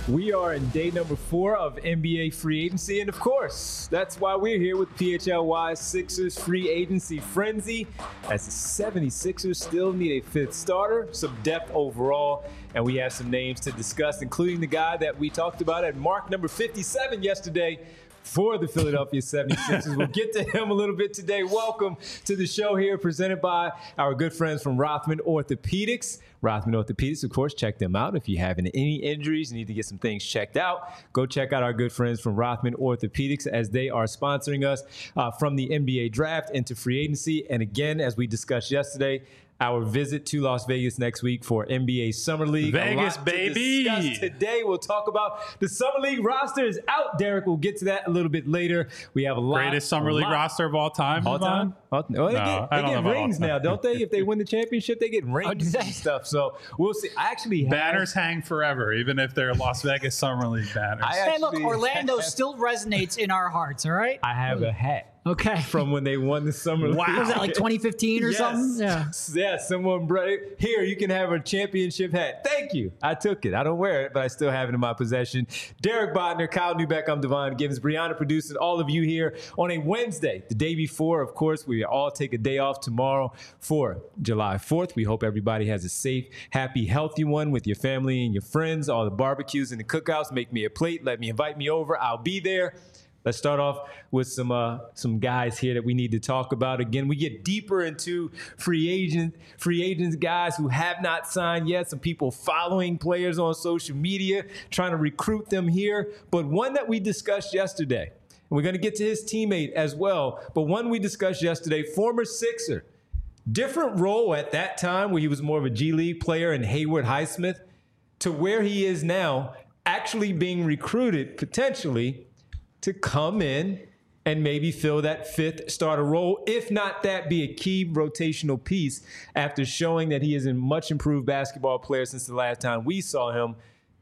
We are in day number 4 of NBA free agency, and of course, that's why we're here with PHLY Sixers free agency frenzy, as the 76ers still need a 5th starter, some depth overall, and we have some names to discuss, including the guy that we talked about at mark number 57 yesterday for the Philadelphia 76ers. We'll get to him a little bit today. Welcome to the show here, presented by our good friends from Rothman Orthopedics. Rothman Orthopedics, of course, check them out. If you have any injuries, you need to get some things checked out, go check out our good friends from Rothman Orthopedics, as they are sponsoring us from the NBA draft into free agency. And again, as we discussed yesterday, our visit to Las Vegas next week for NBA Summer League. Vegas, baby. To discuss today, we'll talk about the Summer League roster is out. Derek, we'll get to that a little bit later. We have a lot. Greatest Summer League roster of all time. All time? Well, they get rings now, don't they? If they win the championship, they get rings and stuff. So we'll see. I actually have banners hang forever, even if they're Las Vegas Summer League banners. Hey, look, Orlando still resonates in our hearts, all right? I have a hat. Okay. From when they won the Summer League. Wow. Was that like 2015 or something? Yeah, someone brought it. Here, you can have a championship hat. Thank you. I took it. I don't wear it, but I still have it in my possession. Derek Bodner, Kyle Newbeck, I'm Devon Givens, Brianna producing all of you here on a Wednesday, the day before. Of course, we all take a day off tomorrow for July 4th. We hope everybody has a safe, happy, healthy one with your family and your friends. All the barbecues and the cookouts. Make me a plate. Invite me over. I'll be there. Let's start off with some guys here that we need to talk about. Again, we get deeper into free agents, guys who have not signed yet. Some people following players on social media, trying to recruit them here. But one that we discussed yesterday, and we're going to get to his teammate as well, but one we discussed yesterday, former Sixer. Different role at that time where he was more of a G League player and Haywood Highsmith, to where he is now, actually being recruited potentially to come in and maybe fill that 5th starter role, if not that, be a key rotational piece after showing that he is a much improved basketball player since the last time we saw him.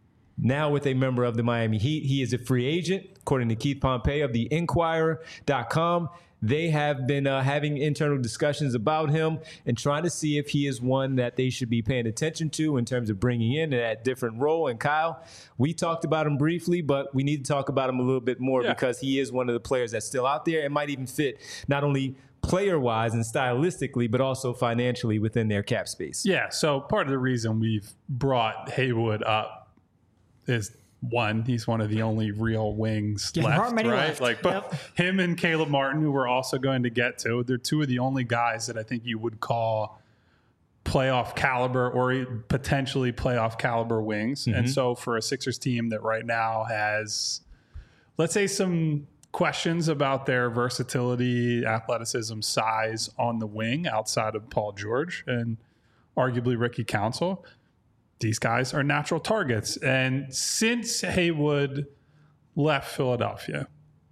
Now with a member of the Miami Heat, he is a free agent, according to Keith Pompey of the Inquirer.com. They have been having internal discussions about him and trying to see if he is one that they should be paying attention to in terms of bringing in that different role. And Kyle, we talked about him briefly, but we need to talk about him a little bit more because he is one of the players that's still out there and might even fit not only player-wise and stylistically, but also financially within their cap space. Yeah, so part of the reason we've brought Haywood up is, one, he's one of the only real wings left, right? Left. Like, but him and Caleb Martin, who we're also going to get to, they're two of the only guys that I think you would call playoff caliber or potentially playoff caliber wings. Mm-hmm. And so for a Sixers team that right now has, let's say, some questions about their versatility, athleticism, size on the wing outside of Paul George and arguably Ricky Council, these guys are natural targets. And since Haywood left Philadelphia,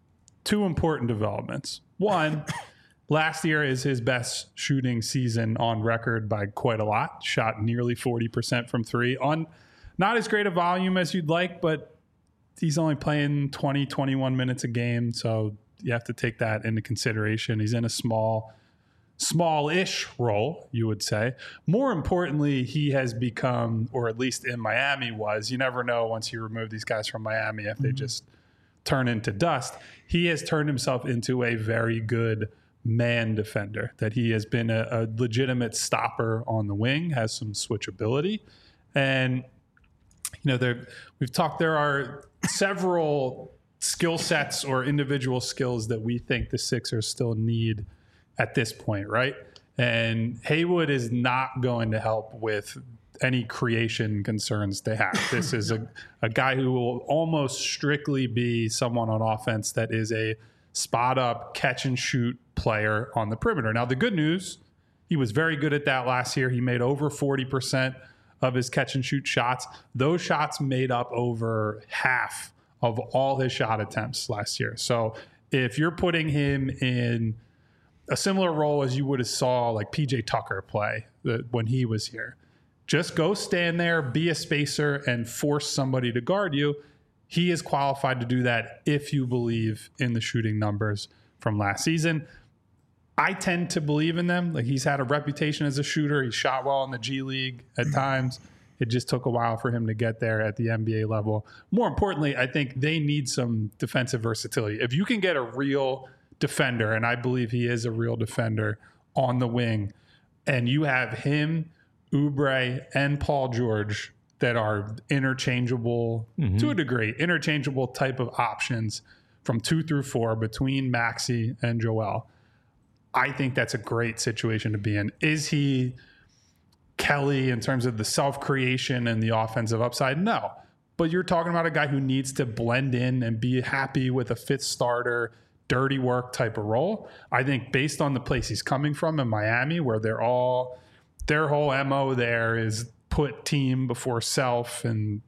2 important developments. One, last year is his best shooting season on record by quite a lot. Shot nearly 40% from 3 on not as great a volume as you'd like, but he's only playing 20, 21 minutes a game. So you have to take that into consideration. He's in a small-ish role, you would say. More importantly, he has become, or at least in Miami was, you never know once you remove these guys from Miami if they just turn into dust. He has turned himself into a very good man defender, that he has been a legitimate stopper on the wing, has some switchability. And, we've talked, there are several skill sets or individual skills that we think the Sixers still need at this point, right? And Haywood is not going to help with any creation concerns they have. This is a guy who will almost strictly be someone on offense that is a spot-up, catch-and-shoot player on the perimeter. Now, the good news, he was very good at that last year. He made over 40% of his catch-and-shoot shots. Those shots made up over half of all his shot attempts last year. So if you're putting him in a similar role as you would have saw like PJ Tucker play when he was here, just go stand there, be a spacer, and force somebody to guard you. He is qualified to do that if you believe in the shooting numbers from last season. I tend to believe in them. Like, he's had a reputation as a shooter. He shot well in the G League at times. It just took a while for him to get there at the NBA level. More importantly, I think they need some defensive versatility. If you can get a real defender, and I believe he is a real defender on the wing, and you have him, Oubre, and Paul George that are interchangeable to a degree, interchangeable type of options from 2 through 4 between Maxey and Joel. I think that's a great situation to be in. Is he Kelly in terms of the self-creation and the offensive upside? No. But you're talking about a guy who needs to blend in and be happy with a fifth starter, dirty work type of role. I think based on the place he's coming from in Miami, where their whole MO there is put team before self and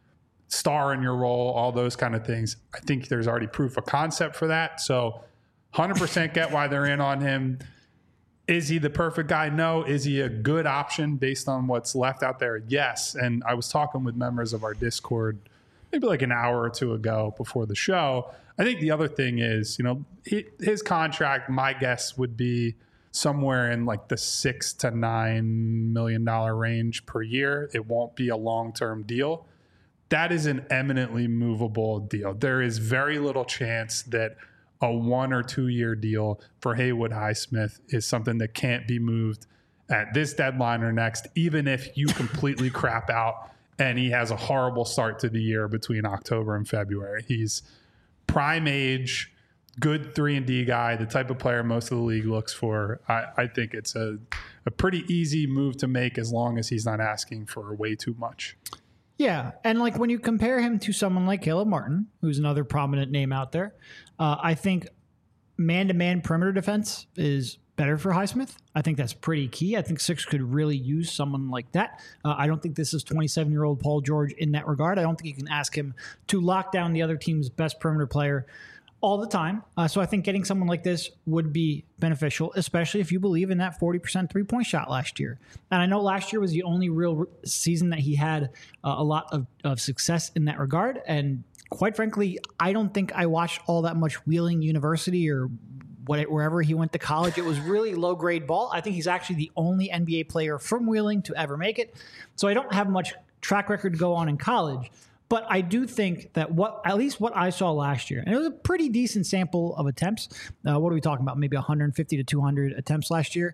star in your role, all those kind of things. I think there's already proof of concept for that. So 100% get why they're in on him. Is he the perfect guy? No. Is he a good option based on what's left out there? Yes. And I was talking with members of our Discord maybe like an hour or two ago before the show. I think the other thing is, his contract, my guess would be somewhere in like the $6 to $9 million range per year. It won't be a long-term deal. That is an eminently movable deal. There is very little chance that a 1 or 2 year deal for Haywood Highsmith is something that can't be moved at this deadline or next, even if you completely crap out and he has a horrible start to the year between October and February. He's prime age, good 3-and-D guy, the type of player most of the league looks for. I think it's a pretty easy move to make as long as he's not asking for way too much. Yeah, and like when you compare him to someone like Caleb Martin, who's another prominent name out there, I think man-to-man perimeter defense is better for Highsmith. I think that's pretty key. I think Sixers could really use someone like that. I don't think this is 27-year-old Paul George in that regard. I don't think you can ask him to lock down the other team's best perimeter player all the time. So I think getting someone like this would be beneficial, especially if you believe in that 40% three-point shot last year. And I know last year was the only real season that he had a lot of success in that regard. And quite frankly, I don't think I watched all that much Wheeling University or wherever he went to college. It was really low-grade ball. I think he's actually the only NBA player from Wheeling to ever make it. So I don't have much track record to go on in college. But I do think that at least what I saw last year, and it was a pretty decent sample of attempts. What are we talking about? Maybe 150 to 200 attempts last year.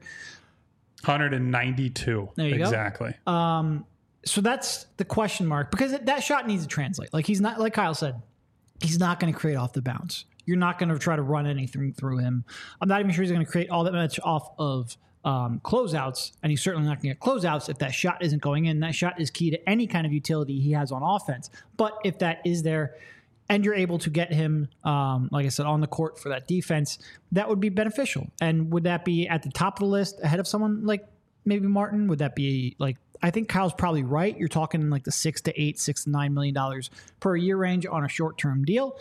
192. There you exactly. go. So that's the question mark, because that shot needs to translate. Like he's not, like Kyle said, he's not going to create off the bounce. You're not going to try to run anything through him. I'm not even sure he's going to create all that much off of closeouts, and he's certainly not going to get closeouts if that shot isn't going in. That shot is key to any kind of utility he has on offense. But if that is there and you're able to get him, like I said, on the court for that defense, that would be beneficial. And would that be at the top of the list ahead of someone like maybe Martin? Would that be like, I think Kyle's probably right. You're talking like the $6 to $9 million per year range on a short-term deal.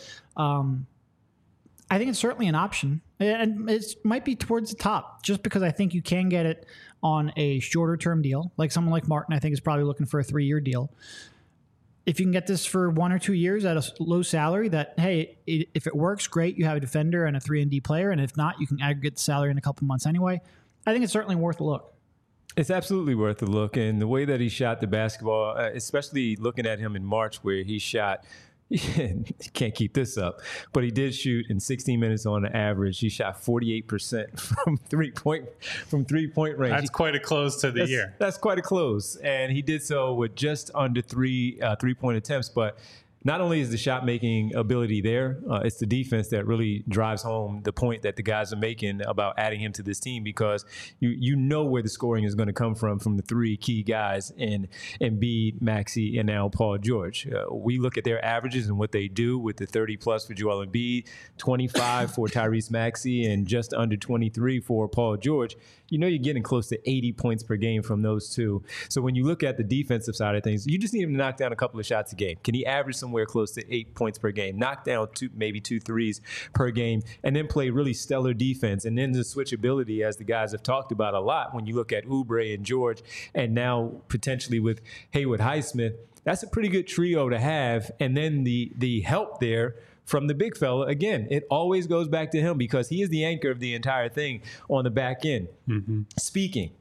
I think it's certainly an option, and it might be towards the top just because I think you can get it on a shorter term deal. Like someone like Martin, I think is probably looking for a 3-year deal. If you can get this for 1 or 2 years at a low salary, that, hey, if it works, great. You have a defender and a 3-and-D player. And if not, you can aggregate the salary in a couple months anyway. I think it's certainly worth a look. It's absolutely worth a look. And the way that he shot the basketball, especially looking at him in March where he shot, he can't keep this up, but he did shoot in 16 minutes on the average. He shot 48% from three-point range. That's quite a close to the year. That's quite a close. And he did so with just under three-point attempts. But not only is the shot-making ability there, it's the defense that really drives home the point that the guys are making about adding him to this team, because you know where the scoring is going to come from the 3 key guys in Embiid, Maxey, and now Paul George. We look at their averages and what they do with the 30-plus for Joel Embiid, 25 for Tyrese Maxey, and just under 23 for Paul George. You know you're getting close to 80 points per game from those two. So when you look at the defensive side of things, you just need him to knock down a couple of shots a game. Can he average somewhere close to 8 points per game? Knock down maybe 2 threes per game, and then play really stellar defense. And then the switchability, as the guys have talked about a lot, when you look at Oubre and George, and now potentially with Haywood Highsmith, that's a pretty good trio to have. And then the help there from the big fella, again, it always goes back to him because he is the anchor of the entire thing on the back end. Mm-hmm. Speaking,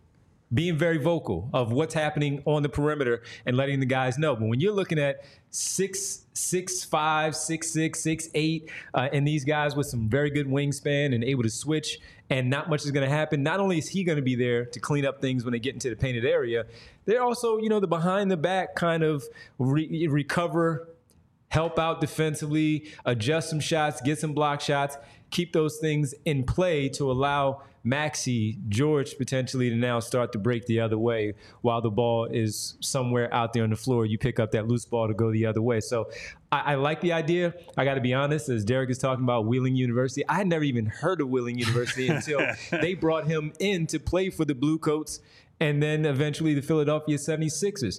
being very vocal of what's happening on the perimeter and letting the guys know. But when you're looking at 6'5", 6'6", 6'8", and these guys with some very good wingspan and able to switch, and not much is going to happen. Not only is he going to be there to clean up things when they get into the painted area, they're also, the behind the back kind of recover, help out defensively, adjust some shots, get some block shots, keep those things in play to allow Maxey, George potentially to now start to break the other way while the ball is somewhere out there on the floor. You pick up that loose ball to go the other way. So I like the idea. I got to be honest, as Derek is talking about Wheeling University, I had never even heard of Wheeling University until they brought him in to play for the Blue Coats and then eventually the Philadelphia 76ers.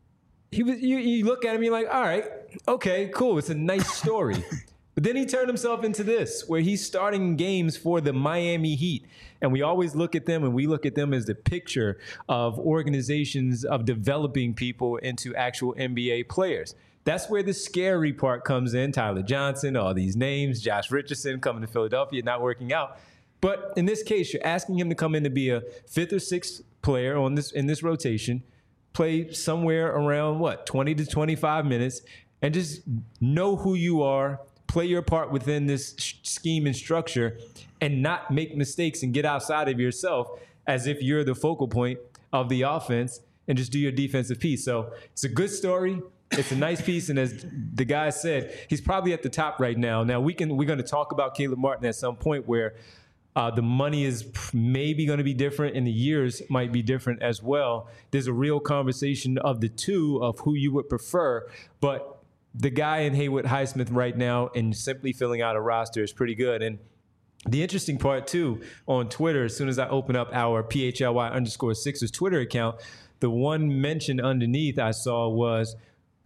You look at him, you're like, all right, okay, cool. It's a nice story. But then he turned himself into this, where he's starting games for the Miami Heat. And we always look at them, and we look at them as the picture of organizations of developing people into actual NBA players. That's where the scary part comes in. Tyler Johnson, all these names, Josh Richardson coming to Philadelphia, not working out. But in this case, you're asking him to come in to be a fifth or sixth player in this rotation, play somewhere around, 20 to 25 minutes, and just know who you are, play your part within this scheme and structure, and not make mistakes and get outside of yourself as if you're the focal point of the offense, and just do your defensive piece. So it's a good story. It's a nice piece. And as the guy said, he's probably at the top right now. Now we're going to talk about Caleb Martin at some point where the money is maybe going to be different and the years might be different as well. There's a real conversation of the two of who you would prefer, but the guy in Haywood Highsmith right now and simply filling out a roster is pretty good. And the interesting part, too, on Twitter, as soon as I open up our PHLY_Sixers Twitter account, the one mention underneath I saw was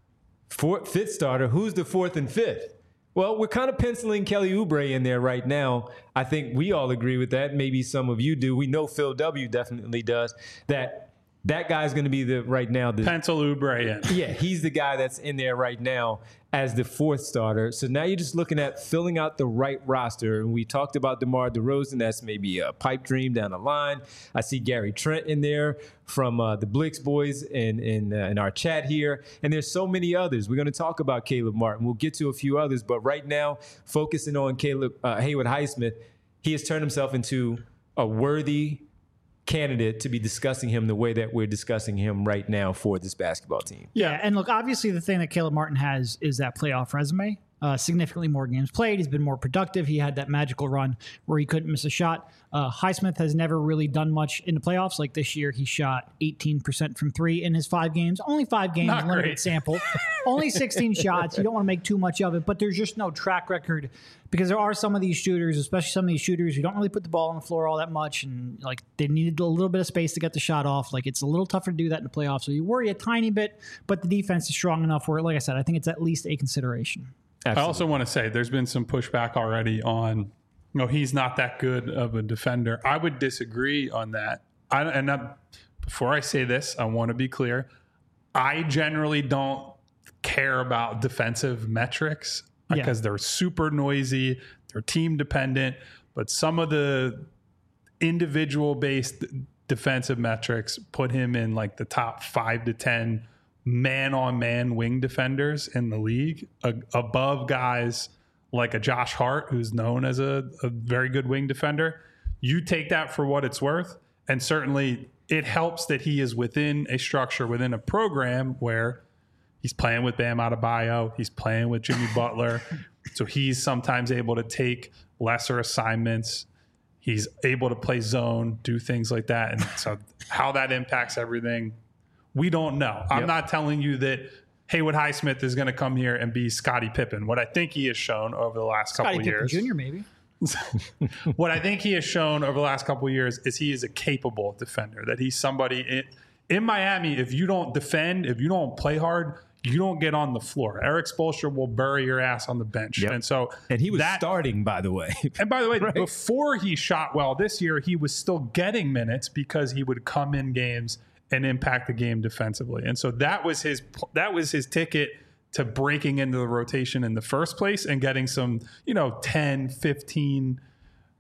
fifth starter. Who's the fourth and fifth? Well, we're kind of penciling Kelly Oubre in there right now. I think we all agree with that. Maybe some of you do. We know Phil W. definitely does. That guy's going to be pencil Oubre in. Yeah, he's the guy that's in there right now as the fourth starter. So now you're just looking at filling out the right roster. And we talked about DeMar DeRozan. That's maybe a pipe dream down the line. I see Gary Trent in there from the Blix boys in our chat here. And there's so many others. We're going to talk about Caleb Martin. We'll get to a few others. But right now, focusing on Haywood Highsmith, he has turned himself into a worthy candidate to be discussing him the way that we're discussing him right now for this basketball team. Yeah, and look, obviously the thing that Caleb Martin has is that playoff resume. Significantly more games played. He's been more productive. He had that magical run where he couldn't miss a shot. Highsmith has never really done much in the playoffs. Like this year, he shot 18% from three in his 5 games. Only 5 games, Not limited great. Sample. Only 16 shots. You don't want to make too much of it, but there's just no track record because there are some of these shooters, especially some of these shooters who don't really put the ball on the floor all that much, and like they needed a little bit of space to get the shot off. Like it's a little tougher to do that in the playoffs. So you worry a tiny bit, but the defense is strong enough where, like I said, I think it's at least a consideration. Absolutely. I also want to say there's been some pushback already on, he's not that good of a defender. I would disagree on that. Before I say this, I want to be clear. I generally don't care about defensive metrics because they're super noisy, they're team dependent, but some of the individual based defensive metrics put him in like the top 5 to 10 man-on-man wing defenders in the league, above guys like a Josh Hart, who's known as a very good wing defender. You take that for what it's worth, and certainly it helps that he is within a structure, within a program where he's playing with Bam Adebayo, he's playing with Jimmy Butler, so he's sometimes able to take lesser assignments. He's able to play zone, do things like that, and so how that impacts everything, we don't know. I'm not telling you that Haywood Highsmith is going to come here and be Scottie Pippen. What I think he has shown over the last couple of years. Scottie Pippen Jr. maybe. What I think he has shown over the last couple of years is he is a capable defender. That he's somebody in Miami. If you don't defend, if you don't play hard, you don't get on the floor. Eric Spoelstra will bury your ass on the bench. Yep. And he was starting, by the way. And by the way, right? Before he shot well this year, he was still getting minutes because he would come in games and impact the game defensively. And so that was his ticket to breaking into the rotation in the first place and getting some, 10, 15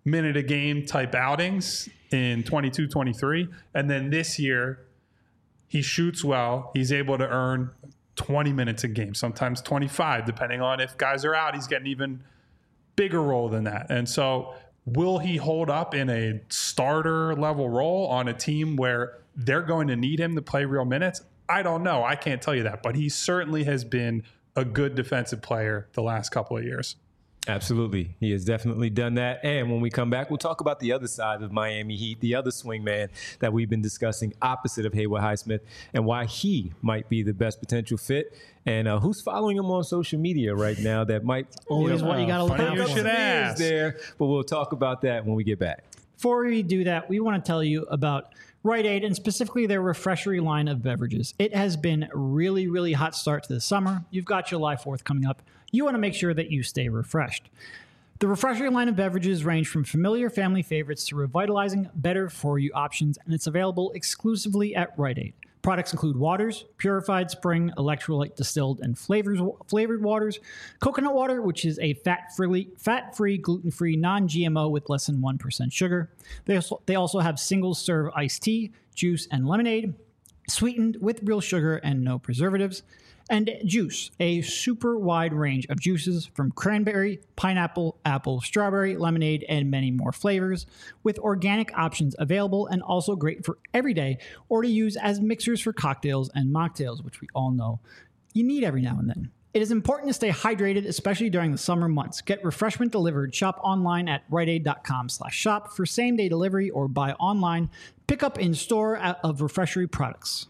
minute a game type outings in 22-23. And then this year, he shoots well. He's able to earn 20 minutes a game, sometimes 25, depending on if guys are out. He's getting even bigger role than that. And so will he hold up in a starter level role on a team where they're going to need him to play real minutes? I don't know. I can't tell you that. But he certainly has been a good defensive player the last couple of years. Absolutely. He has definitely done that. And when we come back, we'll talk about the other side of Miami Heat, the other swingman that we've been discussing opposite of Haywood Highsmith, and why he might be the best potential fit. And who's following him on social media right now that might Always what you got to look out you for. should ask. there. But we'll talk about that when we get back. Before we do that, we want to tell you about Rite Aid and specifically their Refreshery line of beverages. It has been really, really hot start to the summer. You've got July 4th coming up. You want to make sure that you stay refreshed. The Refreshery line of beverages range from familiar family favorites to revitalizing, better-for-you options, and it's available exclusively at Rite Aid. Products include waters, purified spring, electrolyte distilled, and flavored waters, coconut water, which is a fat-free, gluten-free, non-GMO with less than 1% sugar. They also have single-serve iced tea, juice, and lemonade, sweetened with real sugar and no preservatives. And juice, a super wide range of juices from cranberry, pineapple, apple, strawberry, lemonade, and many more flavors, with organic options available and also great for every day or to use as mixers for cocktails and mocktails, which we all know you need every now and then. It is important to stay hydrated, especially during the summer months. Get refreshment delivered. Shop online at riteaid.com/shop for same-day delivery or buy online. Pick up in store of Refreshery products.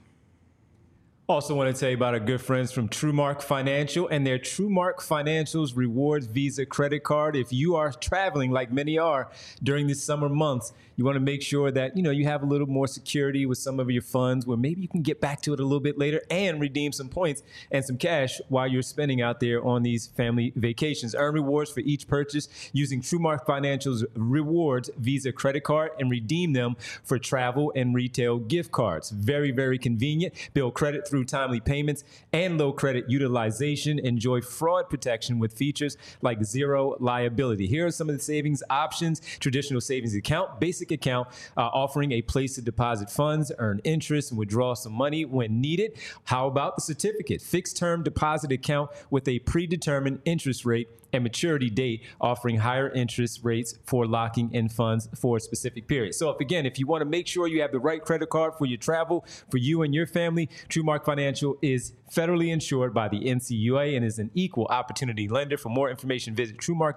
Also want to tell you about our good friends from TrueMark Financial and their TrueMark Financials Rewards Visa credit card. If you are traveling like many are during the summer months, you want to make sure that, you have a little more security with some of your funds where maybe you can get back to it a little bit later and redeem some points and some cash while you're spending out there on these family vacations. Earn rewards for each purchase using TrueMark Financial's Rewards Visa credit card and redeem them for travel and retail gift cards. Very, very convenient. Build credit through timely payments and low credit utilization. Enjoy fraud protection with features like zero liability. Here are some of the savings options: traditional savings account, basic account, offering a place to deposit funds, earn interest, and withdraw some money when needed. How about the certificate? Fixed term deposit account with a predetermined interest rate and maturity date, offering higher interest rates for locking in funds for a specific period. So if you want to make sure you have the right credit card for your travel, for you and your family, TrueMark Financial is federally insured by the NCUA and is an equal opportunity lender. For more information, visit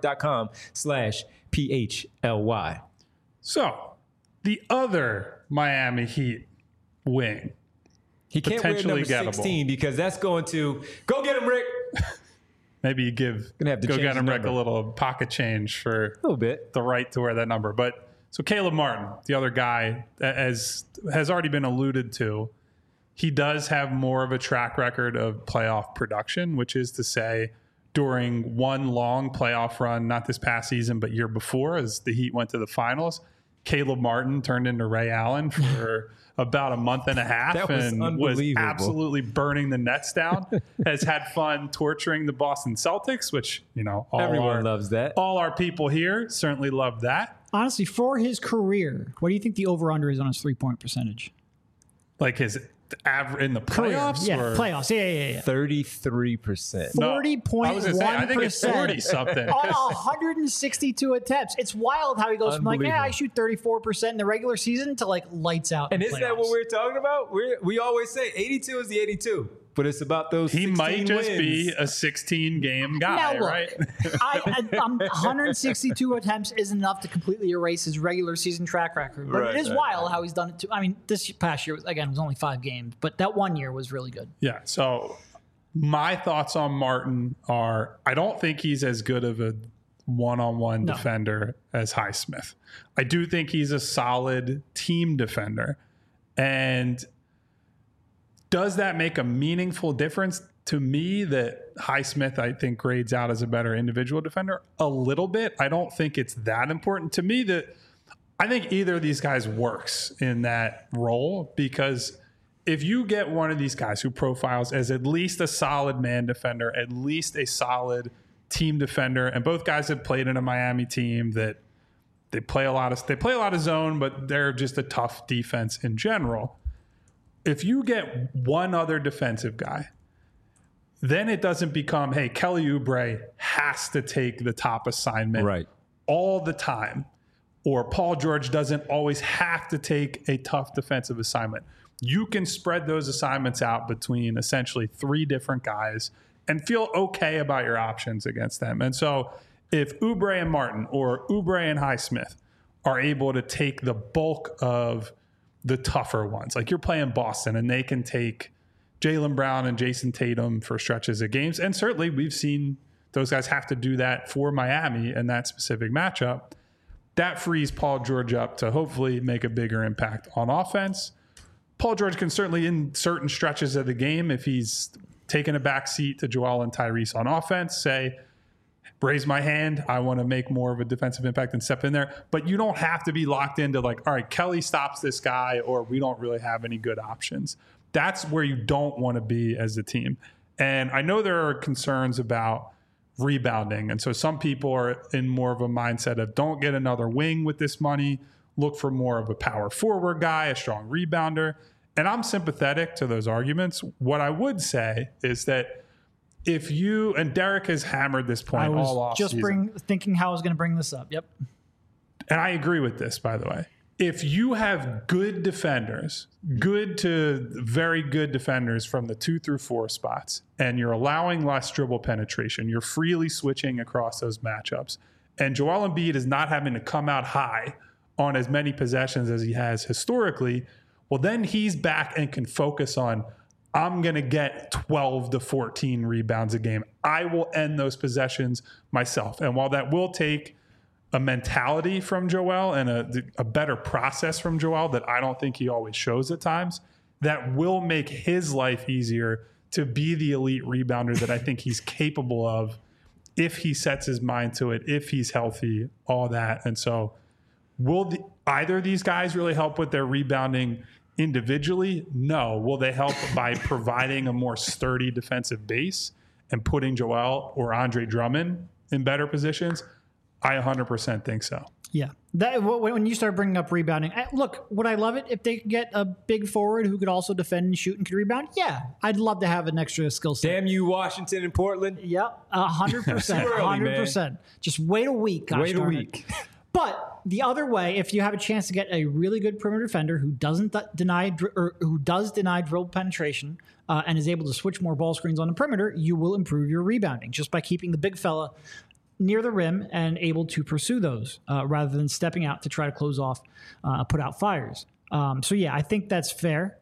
TrueMark.com/PHLY. So, the other Miami Heat wing. He can't wear Potentially number 16 because that's going to go get him, Rick. Maybe you give Gonna have to go change get him the Rick a number. little pocket change for A little bit. the right to wear that number. But so Caleb Martin, the other guy, as has already been alluded to, he does have more of a track record of playoff production, which is to say, during one long playoff run, not this past season, but year before, as the Heat went to the finals, Caleb Martin turned into Ray Allen for about a month and a half That was and was unbelievable. absolutely burning the Nets down. Has had fun torturing the Boston Celtics, which, Everyone loves that. all our people here certainly love that. Honestly, for his career, what do you think the over-under is on his three-point percentage? Like his average in the playoffs? Yeah, or? playoffs. Yeah. 33%. No, 40.1%. I was gonna say, I think it's 40 something. On 162 attempts. It's wild how he goes from like, I shoot 34% in the regular season to like lights out. And in isn't that playoffs. what we're talking about? We always say 82 is the 82, but it's about those He 16 might just wins. be a 16-game guy, Now look, right? 162 attempts isn't enough to completely erase his regular season track record, but it is wild how he's done it too. I mean, this past year, was only 5 games, but that 1 year was really good. Yeah. So my thoughts on Martin are, I don't think he's as good of a one-on-one defender as Highsmith. I do think he's a solid team defender. And does that make a meaningful difference? To me, that Highsmith, I think, grades out as a better individual defender a little bit. I don't think it's that important. To me, that I think either of these guys works in that role, because if you get one of these guys who profiles as at least a solid man defender, at least a solid team defender, and both guys have played in a Miami team that They play a lot of zone, but they're just a tough defense in general. If you get one other defensive guy, then it doesn't become, hey, Kelly Oubre has to take the top assignment all the time, or Paul George doesn't always have to take a tough defensive assignment. You can spread those assignments out between essentially 3 different guys and feel okay about your options against them. And so if Oubre and Martin or Oubre and Highsmith are able to take the bulk of the tougher ones, like you're playing Boston and they can take Jaylen Brown and Jason Tatum for stretches of games. And certainly we've seen those guys have to do that for Miami in that specific matchup. That frees Paul George up to hopefully make a bigger impact on offense. Paul George can certainly, in certain stretches of the game, if he's taking a back seat to Joel and Tyrese on offense, say, raise my hand, I want to make more of a defensive impact and step in there. But you don't have to be locked into like, all right, Kelly stops this guy, or we don't really have any good options. That's where you don't want to be as a team. And I know there are concerns about rebounding. And so some people are in more of a mindset of don't get another wing with this money, look for more of a power forward guy, a strong rebounder. And I'm sympathetic to those arguments. What I would say is that if you, and Derek has hammered this point all off just thinking how I was going to bring this up. Yep. And I agree with this, by the way. If you have good defenders, good to very good defenders from the 2 through 4 spots, and you're allowing less dribble penetration, you're freely switching across those matchups, and Joel Embiid is not having to come out high on as many possessions as he has historically, well, then he's back and can focus on, I'm going to get 12 to 14 rebounds a game. I will end those possessions myself. And while that will take a mentality from Joel and a better process from Joel that I don't think he always shows at times, that will make his life easier to be the elite rebounder that I think he's capable of if he sets his mind to it, if he's healthy, all that. And so will either of these guys really help with their rebounding individually? No. Will they help by providing a more sturdy defensive base and putting Joel or Andre Drummond in better positions? I 100% think so. Yeah. When you start bringing up rebounding, look, would I love it if they could get a big forward who could also defend and shoot and could rebound? Yeah. I'd love to have an extra skill set. Damn you, Washington and Portland. Yep. 100%. 100%. Just wait a week. Wait a week. But the other way, if you have a chance to get a really good perimeter defender who doesn't deny dribble penetration and is able to switch more ball screens on the perimeter, you will improve your rebounding just by keeping the big fella near the rim and able to pursue those rather than stepping out to try to close off, put out fires. So yeah, I think that's fair.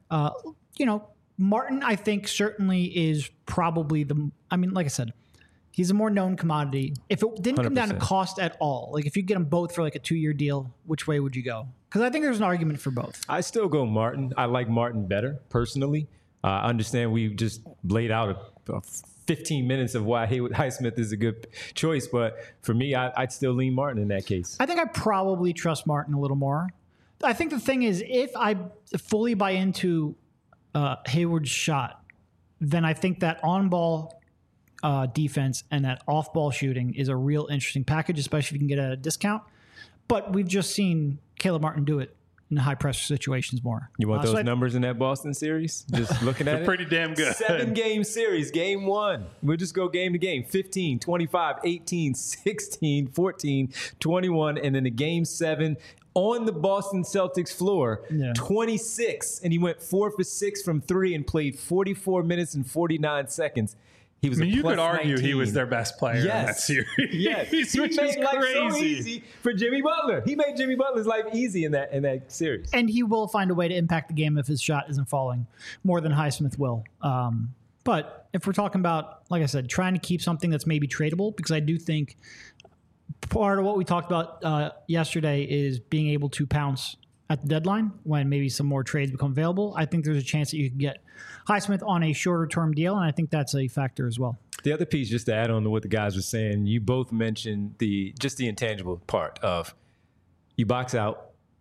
Martin, I think certainly is probably like I said, he's a more known commodity. If it didn't 100%. Come down to cost at all, like if you get them both for like a 2-year deal, which way would you go? Because I think there's an argument for both. I still go Martin. I like Martin better personally. I understand we just laid out a 15 minutes of why Haywood Highsmith is a good choice, but for me, I'd still lean Martin in that case. I think I probably trust Martin a little more. I think the thing is, if I fully buy into Hayward's shot, then I think that on-ball defense and that off-ball shooting is a real interesting package, especially if you can get a discount. But we've just seen Caleb Martin do it in high-pressure situations more. You want those numbers in that Boston series? Just looking at it? Pretty damn good. 7-game series, game 1. We'll just go game to game. 15, 25, 18, 16, 14, 21, and then the game 7 on the Boston Celtics floor, 26. And he went 4 for 6 from 3 and played 44 minutes and 49 seconds. He was you could 19. argue he was their best player in that series. Yes. He made life so easy for Jimmy Butler. He made Jimmy Butler's life easy in that series. And he will find a way to impact the game if his shot isn't falling more than Highsmith will. But if we're talking about, like I said, trying to keep something that's maybe tradable, because I do think part of what we talked about yesterday is being able to pounce at the deadline when maybe some more trades become available. I think there's a chance that you can get Highsmith on a shorter term deal, and I think that's a factor as well. The other piece, just to add on to what the guys were saying, you both mentioned the intangible part of you box out,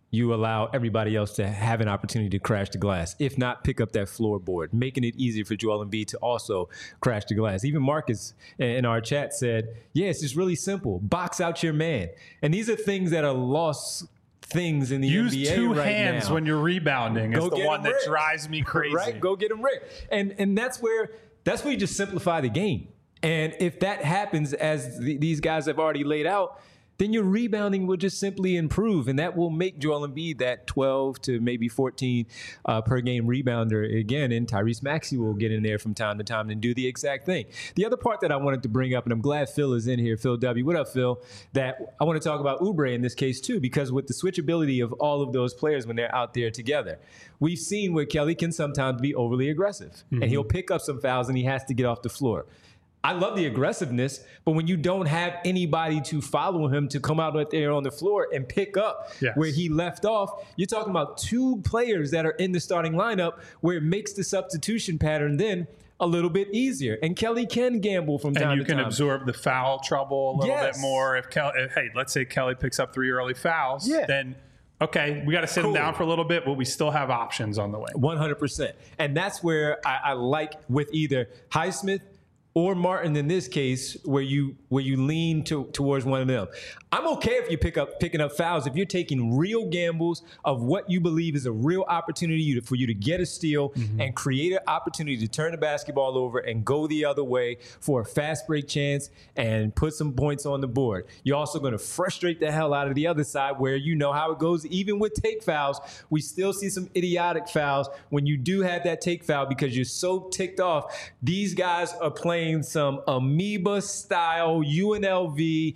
you allow everybody else to have an opportunity to crash the glass. If not, pick up that floorboard, making it easier for Joel Embiid to also crash the glass. Even Marcus in our chat said, yeah, it's just really simple. Box out your man. And these are things that are lost things in the Use NBA two right hands now. when you're rebounding. Go Is the get one him that ripped. drives me crazy. Right? Go get him ripped. And that's where you just simplify the game. And if that happens, as these guys have already laid out, then your rebounding will just simply improve, and that will make Joel Embiid that 12 to maybe 14 per game rebounder again, and Tyrese Maxey will get in there from time to time and do the exact thing. The other part that I wanted to bring up, and I'm glad Phil is in here, Phil W. What up, Phil? That I want to talk about Oubre in this case too, because with the switchability of all of those players when they're out there together, we've seen where Kelly can sometimes be overly aggressive, and he'll pick up some fouls and he has to get off the floor. I love the aggressiveness, but when you don't have anybody to follow him to come out there on the floor and pick up where he left off, you're talking about two players that are in the starting lineup where it makes the substitution pattern then a little bit easier. And Kelly can gamble from time to time. And you can absorb the foul trouble a little bit more. If let's say Kelly picks up 3 early fouls, then okay, we got to sit him down for a little bit, but we still have options on the way. 100%. And that's where I like with either Highsmith or Martin in this case, where you lean towards one of them. I'm okay if you picking up fouls if you're taking real gambles of what you believe is a real opportunity for you to get a steal and create an opportunity to turn the basketball over and go the other way for a fast break chance and put some points on the board. You're also going to frustrate the hell out of the other side where you know how it goes. Even with take fouls, we still see some idiotic fouls when you do have that take foul because you're so ticked off. These guys are playing some amoeba-style UNLV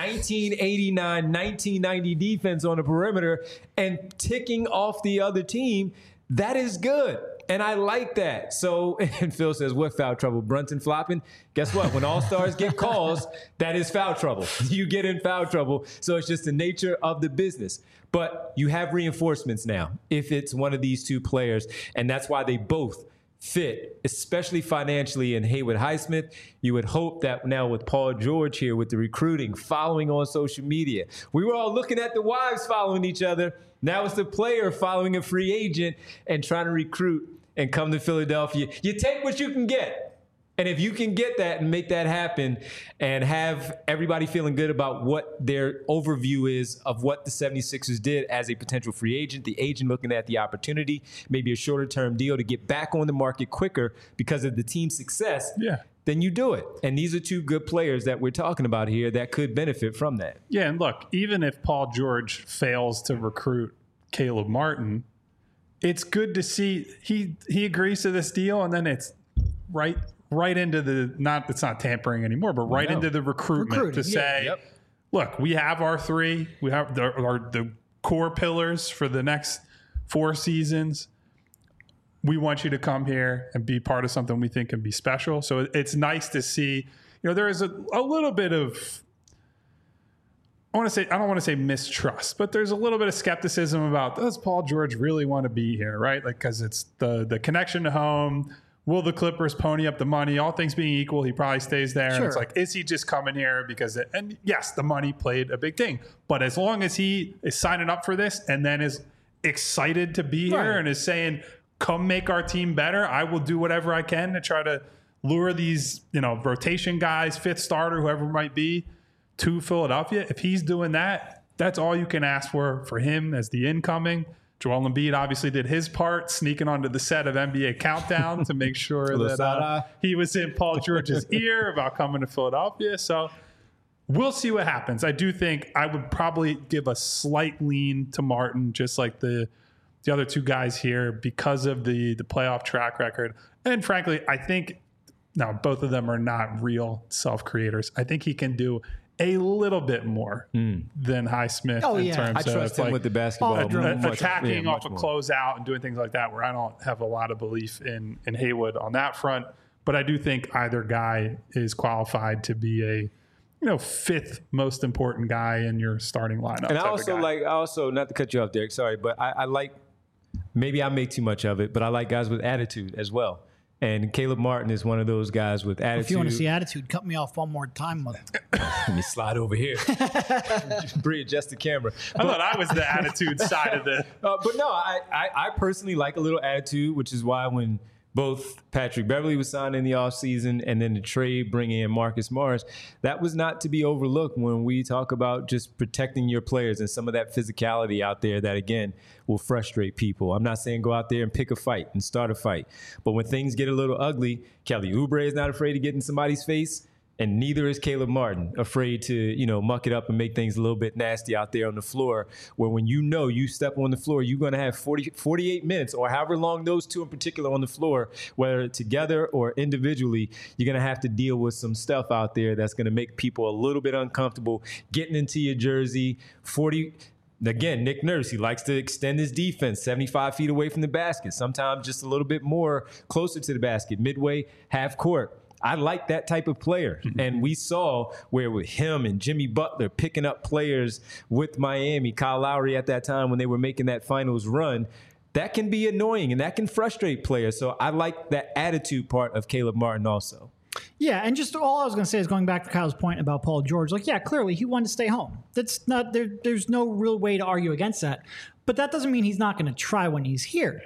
1989, 1990 defense on the perimeter and ticking off the other team. That is good. And I like that. So, and Phil says, what foul trouble? Brunson flopping? Guess what? When all-stars get calls, that is foul trouble. You get in foul trouble. So it's just the nature of the business. But you have reinforcements now if it's one of these two players. And that's why they both fit, especially financially in Haywood Highsmith. You would hope that now with Paul George here with the recruiting, following on social media, we were all looking at the wives following each other. Now it's the player following a free agent and trying to recruit and come to Philadelphia. You take what you can get. And if you can get that and make that happen and have everybody feeling good about what their overview is of what the 76ers did as a potential free agent, the agent looking at the opportunity, maybe a shorter term deal to get back on the market quicker because of the team's success, then you do it. And these are two good players that we're talking about here that could benefit from that. Yeah, and look, even if Paul George fails to recruit Caleb Martin, it's good to see he agrees to this deal, and then it's right into it's not tampering anymore, but into the recruitment to say, look, we have our 3, we have the core pillars for the next 4 seasons. We want you to come here and be part of something we think can be special. So it's nice to see, there is a little bit of, I don't want to say mistrust, but there's a little bit of skepticism about, does Paul George really want to be here, right? Like, because it's the connection to home. Will the Clippers pony up the money? All things being equal, he probably stays there. Sure. And it's like, is he just coming here because and yes, the money played a big thing. But as long as he is signing up for this and then is excited to be here and is saying, come make our team better, I will do whatever I can to try to lure these, rotation guys, 5th starter, whoever it might be, to Philadelphia. If he's doing that, that's all you can ask for him as the incoming. Joel Embiid obviously did his part, sneaking onto the set of NBA Countdown to make sure that he was in Paul George's ear about coming to Philadelphia. So we'll see what happens. I do think I would probably give a slight lean to Martin, just like the other two guys here, because of the playoff track record. And frankly, I think now both of them are not real self-creators. I think he can do a little bit more than Highsmith in terms of, I trust him with the basketball. Attacking off a closeout and doing things like that, where I don't have a lot of belief in Haywood on that front. But I do think either guy is qualified to be a 5th most important guy in your starting lineup. And I also not to cut you off, Derek, sorry, but I like, maybe I make too much of it, but I like guys with attitude as well. And Caleb Martin is one of those guys with attitude. If you want to see attitude, cut me off one more time, mother. Let me slide over here. Readjust the camera. I thought I was the attitude side of the. But no, I personally like a little attitude, which is why when both Patrick Beverley was signed in the offseason and then the trade bringing in Marcus Morris, that was not to be overlooked when we talk about just protecting your players and some of that physicality out there that, again, will frustrate people. I'm not saying go out there and pick a fight and start a fight. But when things get a little ugly, Kelly Oubre is not afraid to get in somebody's face. And neither is Caleb Martin afraid to, muck it up and make things a little bit nasty out there on the floor, where when you step on the floor, you're going to have 48 minutes or however long those two in particular on the floor, whether together or individually, you're going to have to deal with some stuff out there that's going to make people a little bit uncomfortable getting into your jersey. Again, Nick Nurse, he likes to extend his defense 75 feet away from the basket, sometimes just a little bit more closer to the basket, midway, half court. I like that type of player. And we saw where with him and Jimmy Butler picking up players with Miami, Kyle Lowry at that time when they were making that finals run, that can be annoying and that can frustrate players. So I like that attitude part of Caleb Martin also. Yeah, and just all I was going to say is going back to Kyle's point about Paul George. Clearly he wanted to stay home. That's not there. There's no real way to argue against that. But that doesn't mean he's not going to try when he's here.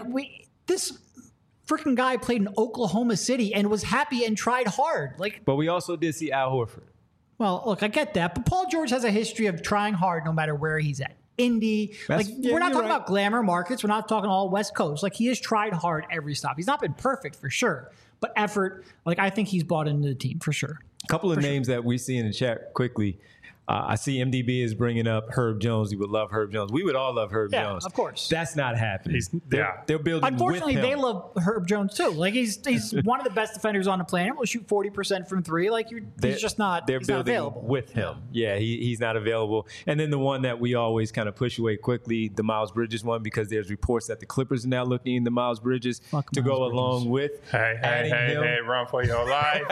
This freaking guy played in Oklahoma City and was happy and tried hard. But we also did see Al Horford. Well, look, I get that, but Paul George has a history of trying hard no matter where he's at. Indy, we're not talking about glamour markets. We're not talking all West Coast. He has tried hard every stop. He's not been perfect for sure, but effort. I think he's bought into the team for sure. A couple of names that we see in the chat quickly. I see MDB is bringing up Herb Jones. He would love Herb Jones. We would all love Herb Jones. Yeah, of course. That's not happening. They're building Unfortunately, with him. they love Herb Jones too. He's one of the best defenders on the planet. Will shoot 40% from three. He's just not. They're he's building not available with him. Yeah, he's not available. And then the one that we always kind of push away quickly, the Miles Bridges one, because there's reports that the Clippers are now looking into Miles Bridges to go along with. Hey, run for your life.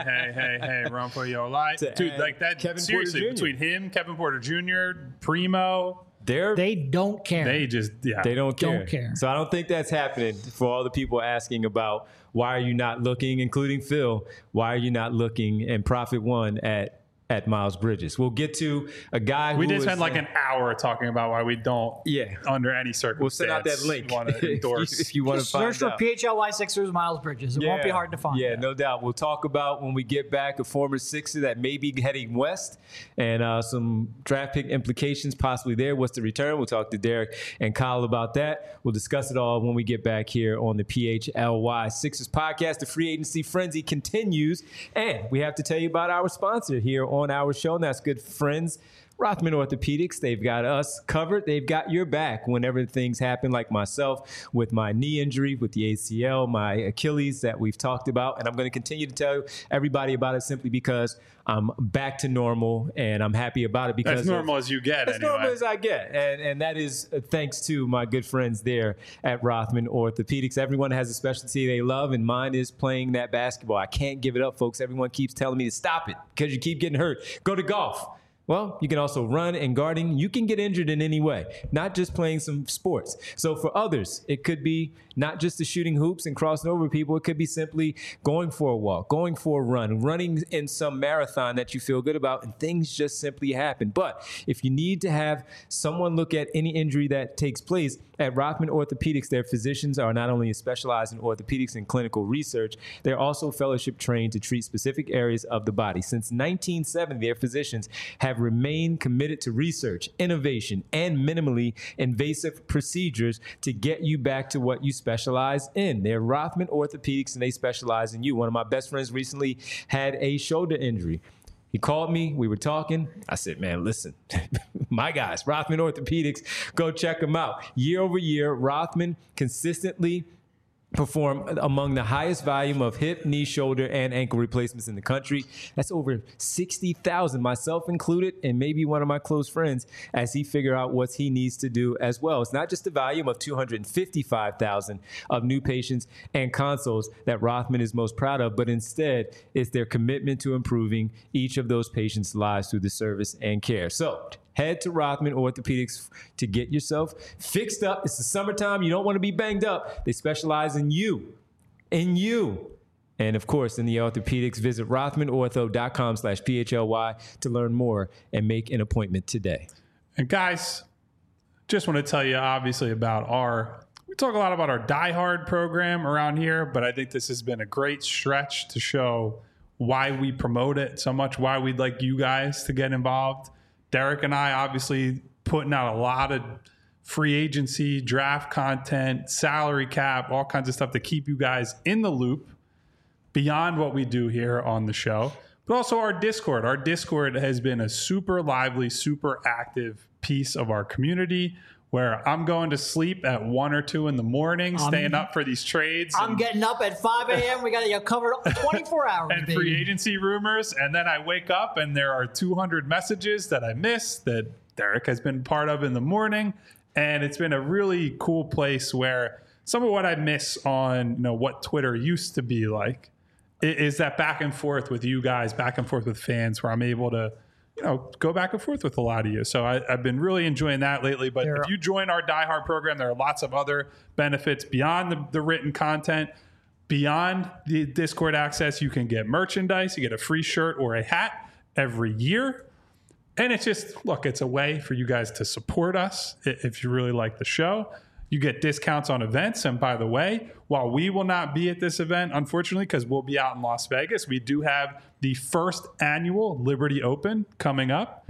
hey, run for your life. Dude, that Kevin seriously, Porter Jr. between him, Kevin Porter Jr., Primo, they don't care. They just, They don't care. Don't care. So I don't think that's happening for all the people asking about why are you not looking, including Phil, why are you not looking and Prophet One at Miles Bridges. We'll get to a guy who we did spend an hour talking about why we don't, under any circumstance, we'll send out that link want to endorse. if you want to find search out. for PHLY Sixers Miles Bridges. It won't be hard to find. Yeah, no doubt. We'll talk about when we get back a former Sixer that may be heading west and some draft pick implications possibly there. What's the return? We'll talk to Derek and Kyle about that. We'll discuss it all when we get back here on the PHLY Sixers podcast. The free agency frenzy continues, and we have to tell you about our sponsor here on our show, and that's good friends Rothman Orthopedics. They've got us covered. They've got your back whenever things happen, like myself with my knee injury, with the ACL, my Achilles that we've talked about. And I'm going to continue to tell everybody about it simply because I'm back to normal and I'm happy about it. Because as normal as you get, as normal as I get. And that is thanks to my good friends there at Rothman Orthopedics. Everyone has a specialty they love, and mine is playing that basketball. I can't give it up, folks. Everyone keeps telling me to stop it because you keep getting hurt. Go to golf. Well, you can also run and gardening. You can get injured in any way, not just playing some sports. So for others, it could be not just the shooting hoops and crossing over people. It could be simply going for a walk, going for a run, running in some marathon that you feel good about, and things just simply happen. But if you need to have someone look at any injury that takes place, at Rothman Orthopedics, their physicians are not only specialized in orthopedics and clinical research, they're also fellowship trained to treat specific areas of the body. Since 1970, their physicians have remained committed to research, innovation, and minimally invasive procedures to get you back to what you specialize in. They're Rothman Orthopedics, and they specialize in you. One of my best friends recently had a shoulder injury. He called me. We were talking. I said, man, listen, my guys, Rothman Orthopedics, go check them out. Year over year, Rothman consistently perform among the highest volume of hip, knee, shoulder, and ankle replacements in the country. That's over 60,000, myself included, and maybe one of my close friends, as he figure out what he needs to do as well. It's not just the volume of 255,000 of new patients and consoles that Rothman is most proud of, but instead it's their commitment to improving each of those patients' lives through the service and care. So head to Rothman Orthopedics to get yourself fixed up. It's the summertime. You don't want to be banged up. They specialize in you. in you. And of course, in the orthopedics, visit rothmanortho.com/PHLY to learn more and make an appointment today. And guys, just want to tell you obviously about we talk a lot about our Die Hard program around here, but I think this has been a great stretch to show why we promote it so much, why we'd like you guys to get involved. Derek and I obviously putting out a lot of free agency, draft content, salary cap, all kinds of stuff to keep you guys in the loop beyond what we do here on the show. But also our Discord. Our Discord has been a super lively, super active piece of our community where I'm going to sleep at 1 or 2 in the morning, staying up for these trades. I'm getting up at 5 a.m. We got to get covered 24 hours, and baby. Free agency rumors. And then I wake up and there are 200 messages that I missed that Derek has been part of in the morning. And it's been a really cool place where some of what I miss on what Twitter used to be like is that back and forth with you guys, back and forth with fans, where I'm able to go back and forth with a lot of you. So I've been really enjoying that lately. But if you join our Die Hard program, there are lots of other benefits beyond the written content, beyond the Discord access. You can get merchandise. You get a free shirt or a hat every year. And it's just, look, it's a way for you guys to support us if you really like the show. You get discounts on events. And by the way, while we will not be at this event, unfortunately, because we'll be out in Las Vegas, we do have the first annual Liberty Open coming up.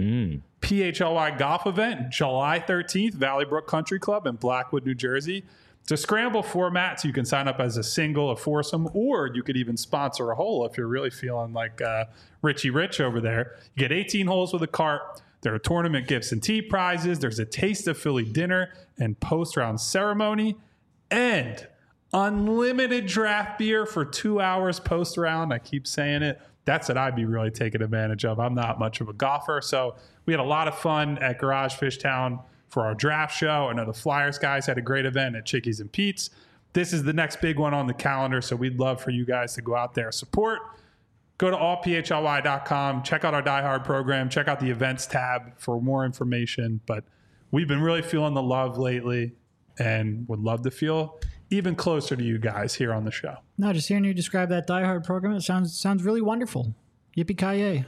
PHLY golf event, July 13th, Valley Brook Country Club in Blackwood, New Jersey. It's a scramble format, so you can sign up as a single, a foursome, or you could even sponsor a hole if you're really feeling like Richie Rich over there. You get 18 holes with a cart. There are tournament gifts and tee prizes. There's a Taste of Philly dinner and post-round ceremony. And unlimited draft beer for 2 hours post-round. I keep saying it. That's what I'd be really taking advantage of. I'm not much of a golfer. So we had a lot of fun at Garage Fish Town for our draft show. I know the Flyers guys had a great event at Chickies and Pete's. This is the next big one on the calendar. So we'd love for you guys to go out there, support. Go to allphly.com, check out our Die Hard program, check out the events tab for more information. But we've been really feeling the love lately and would love to feel even closer to you guys here on the show. No, just hearing you describe that Die Hard program, it sounds really wonderful. Yippee-ki-yay.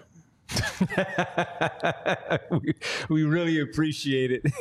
we really appreciate it.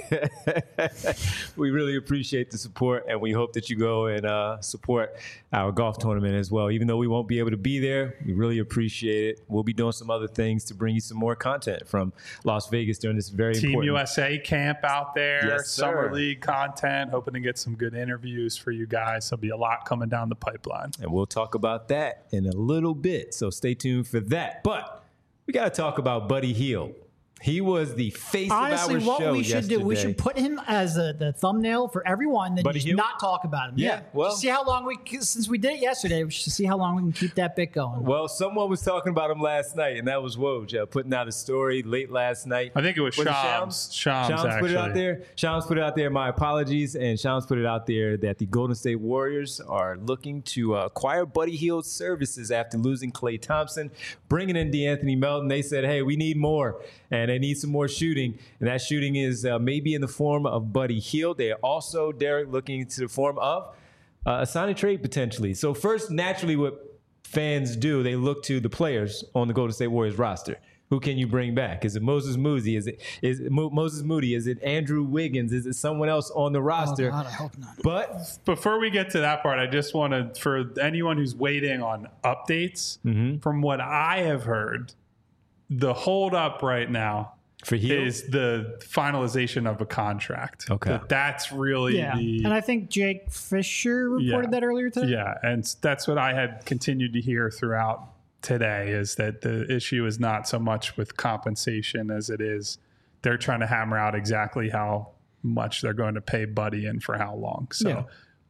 We really appreciate the support, and we hope that you go and support our golf tournament as well. Even though we won't be able to be there, we really appreciate it. We'll be doing some other things to bring you some more content from Las Vegas during this very Team important USA camp out there, Yes, sir. Summer League content, hoping to get some good interviews for you guys. There'll be a lot coming down the pipeline. And we'll talk about that in a little bit, so stay tuned for that. But we got to talk about Buddy Hield. He was the face Honestly, of our what show we should yesterday. do, we should put him as the thumbnail for everyone, then Buddy just Hield? not talk about him. Yeah, well- Just see how long since we did it yesterday, we should see how long we can keep that bit going. Well, someone was talking about him last night, and that was Woj putting out a story late last night. I think it was Shams. Shams put it out actually. there. Shams put it out there. My apologies. And Shams put it out there that the Golden State Warriors are looking to acquire Buddy Hield's services after losing Klay Thompson, bringing in DeAnthony Melton. They said, hey, we need more, and they need some more shooting. And that shooting is maybe in the form of Buddy Hield. They are also, Derek, looking into the form of a sign and trade potentially. So first, naturally, what fans do, they look to the players on the Golden State Warriors roster. Who can you bring back? Is it Moses Moody? Is it Moses Moody? Is it Andrew Wiggins? Is it someone else on the roster? Oh, God, I hope not. But Before we get to that part, I just want to, for anyone who's waiting on updates, from what I have heard, the hold up right now for Hield, is the finalization of a contract. Okay. That's really Yeah, and I think Jake Fisher reported that earlier today. Yeah, and that's what I had continued to hear throughout today, is that the issue is not so much with compensation as it is they're trying to hammer out exactly how much they're going to pay Buddy and for how long. So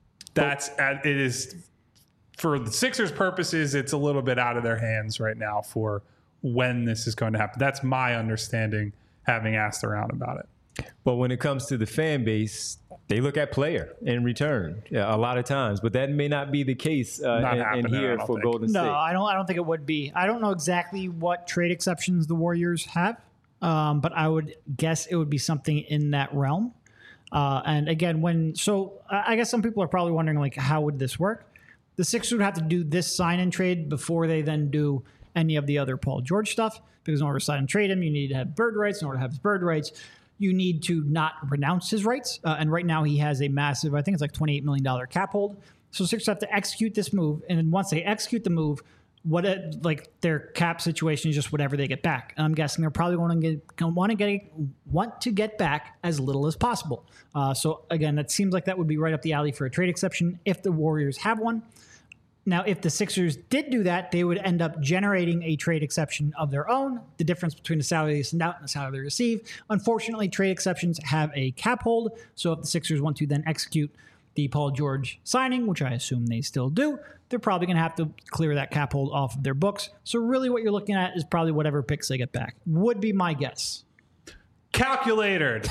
it is, for the Sixers purposes, it's a little bit out of their hands right now for when this is going to happen. That's my understanding, having asked around about it. but when it comes to the fan base, they look at player in return a lot of times. But that may not be the case in happening, here I don't for think. Golden State. No, I don't think it would be. I don't know exactly what trade exceptions the Warriors have, but I would guess it would be something in that realm. And again, I guess some people are probably wondering, like, how would this work? The Sixers would have to do this sign-and trade before they then do any of the other Paul George stuff, because in order to sign and trade him, you need to have bird rights. In order to have his bird rights, you need to not renounce his rights. And right now he has a massive, I think it's like $28 million cap hold. So Sixers have to execute this move. And then once they execute the move, their cap situation is just whatever they get back. And I'm guessing they're probably want to get back as little as possible. So again, that seems like that would be right up the alley for a trade exception if the Warriors have one. Now, if the Sixers did do that, they would end up generating a trade exception of their own, the difference between the salary they send out and the salary they receive. Unfortunately, trade exceptions have a cap hold. So if the Sixers want to then execute the Paul George signing, which I assume they still do, they're probably going to have to clear that cap hold off of their books. So really what you're looking at is probably whatever picks they get back, would be my guess. Calculated.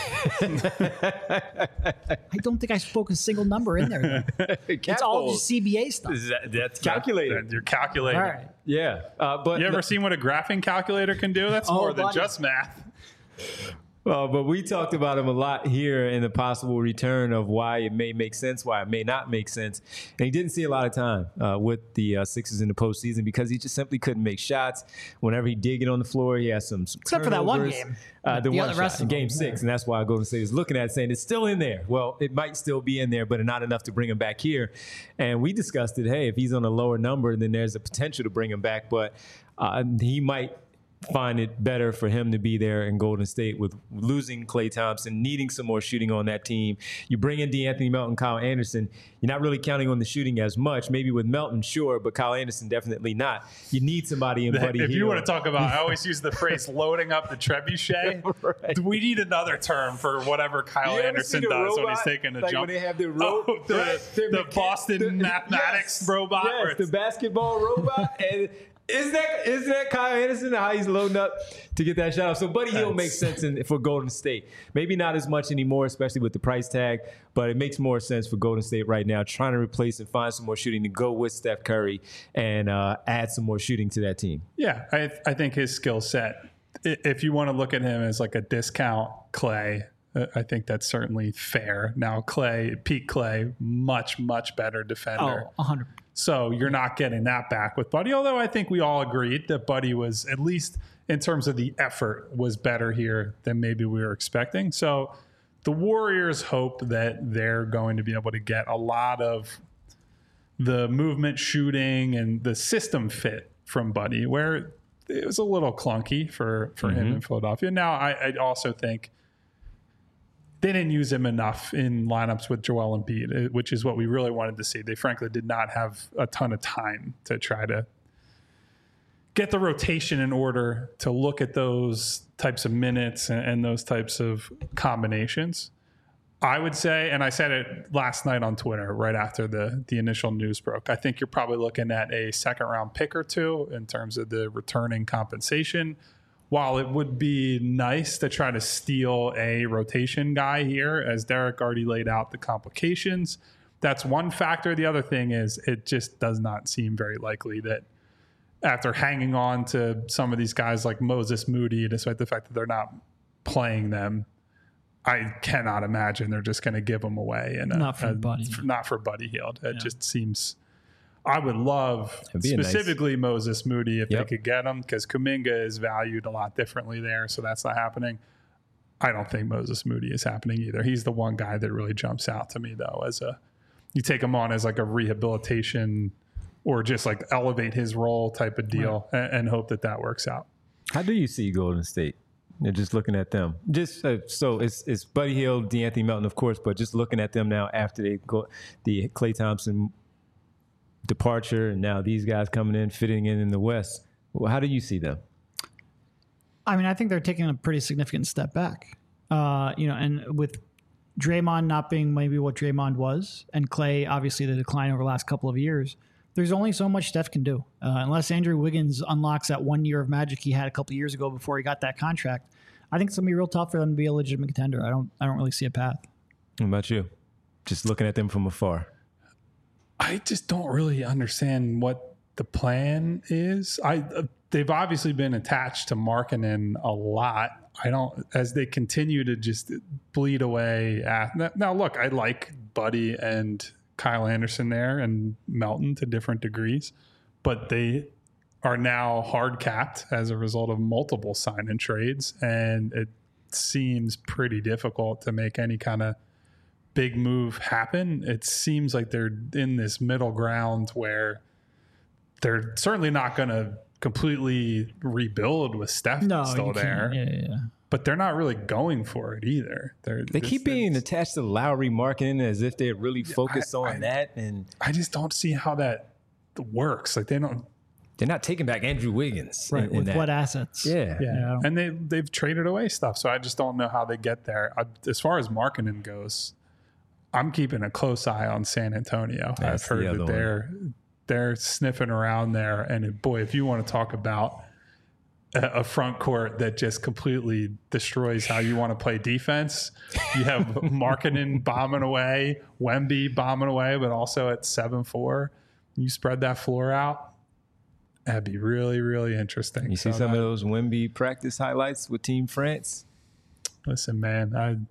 I don't think I spoke a single number in there. It's all just CBA stuff. That's calculated. You're calculating. All right. Yeah. But You ever seen what a graphing calculator can do? That's more than just math. But we talked about him a lot here in the possible return of why it may make sense, why it may not make sense. And he didn't see a lot of time with the Sixers in the postseason because he just simply couldn't make shots. Whenever he did get on the floor, he has some except for that one game. The one shot in Game 6. And that's why Golden State is looking at it saying it's still in there. Well, it might still be in there, but not enough to bring him back here. And we discussed it. Hey, if he's on a lower number, then there's a potential to bring him back. But he might find it better for him to be there in Golden State with losing Klay Thompson, needing some more shooting on that team. You bring in DeAnthony Melton, Kyle Anderson. You're not really counting on the shooting as much. Maybe with Melton, sure, but Kyle Anderson definitely not. You need somebody in Buddy If Hield. you want to talk about, I always use the phrase loading up the trebuchet. Right. We need another term for whatever Kyle Anderson does when he's taking a like jump. When they have the the Boston mathematics robot. Yes, the basketball robot. And Isn't that Kyle Anderson, how he's loading up to get that shot off? So Buddy Hield makes sense for Golden State. Maybe not as much anymore, especially with the price tag, but it makes more sense for Golden State right now, trying to replace and find some more shooting to go with Steph Curry and add some more shooting to that team. Yeah, I think his skill set, if you want to look at him as like a discount Klay, I think that's certainly fair. Now Pete Klay, much, much better defender. Oh, 100%. So you're not getting that back with Buddy, although I think we all agreed that Buddy was, at least in terms of the effort, was better here than maybe we were expecting. So the Warriors hope that they're going to be able to get a lot of the movement, shooting, and the system fit from Buddy, where it was a little clunky for him in Philadelphia. Now, I also think they didn't use him enough in lineups with Joel Embiid, which is what we really wanted to see. They frankly did not have a ton of time to try to get the rotation in order to look at those types of minutes and those types of combinations. I would say, and I said it last night on Twitter right after the initial news broke, I think you're probably looking at a second-round pick or two in terms of the returning compensation. While it would be nice to try to steal a rotation guy here, as Derek already laid out the complications, that's one factor. The other thing is it just does not seem very likely that after hanging on to some of these guys like Moses Moody, despite the fact that they're not playing them, I cannot imagine they're just going to give them away. Not for Buddy Hield. It just seems... I would love specifically Moses Moody if they could get him, because Kuminga is valued a lot differently there, so that's not happening. I don't think Moses Moody is happening either. He's the one guy that really jumps out to me, though, you take him on as like a rehabilitation or just like elevate his role type of deal, and hope that works out. How do you see Golden State? You're just looking at them. Just so it's Buddy Hield, DeAnthony Melton, of course, but just looking at them now after they go the Klay Thompson departure, and now these guys coming in, fitting in the West. Well, how do you see them? I mean, I think they're taking a pretty significant step back. And with Draymond not being maybe what Draymond was, and Klay obviously the decline over the last couple of years, there's only so much Steph can do. Unless Andrew Wiggins unlocks that 1 year of magic he had a couple of years ago before he got that contract, I think it's gonna be real tough for them to be a legitimate contender. I don't really see a path. What about you? Just looking at them from afar. I just don't really understand what the plan is. They've obviously been attached to Markkanen a lot. As they continue to just bleed away. Now, look, I like Buddy and Kyle Anderson there and Melton to different degrees, but they are now hard capped as a result of multiple sign and trades. And it seems pretty difficult to make any kind of big move happen. It seems like they're in this middle ground where they're certainly not going to completely rebuild with Steph still there. Yeah. But they're not really going for it either. They keep being attached to Lowry marketing as if they're really focused on that. And I just don't see how that works. Like they're not taking back Andrew Wiggins. Right. With what assets? Yeah. And they've traded away stuff. So I just don't know how they get there. As far as marketing goes, I'm keeping a close eye on San Antonio. That's I've heard that they're sniffing around there. And boy, if you want to talk about a front court that just completely destroys how you want to play defense, you have Markkanen bombing away, Wemby bombing away, but also at 7-4, you spread that floor out. That'd be really, really interesting. You see some of those Wemby practice highlights with Team France? Listen, man,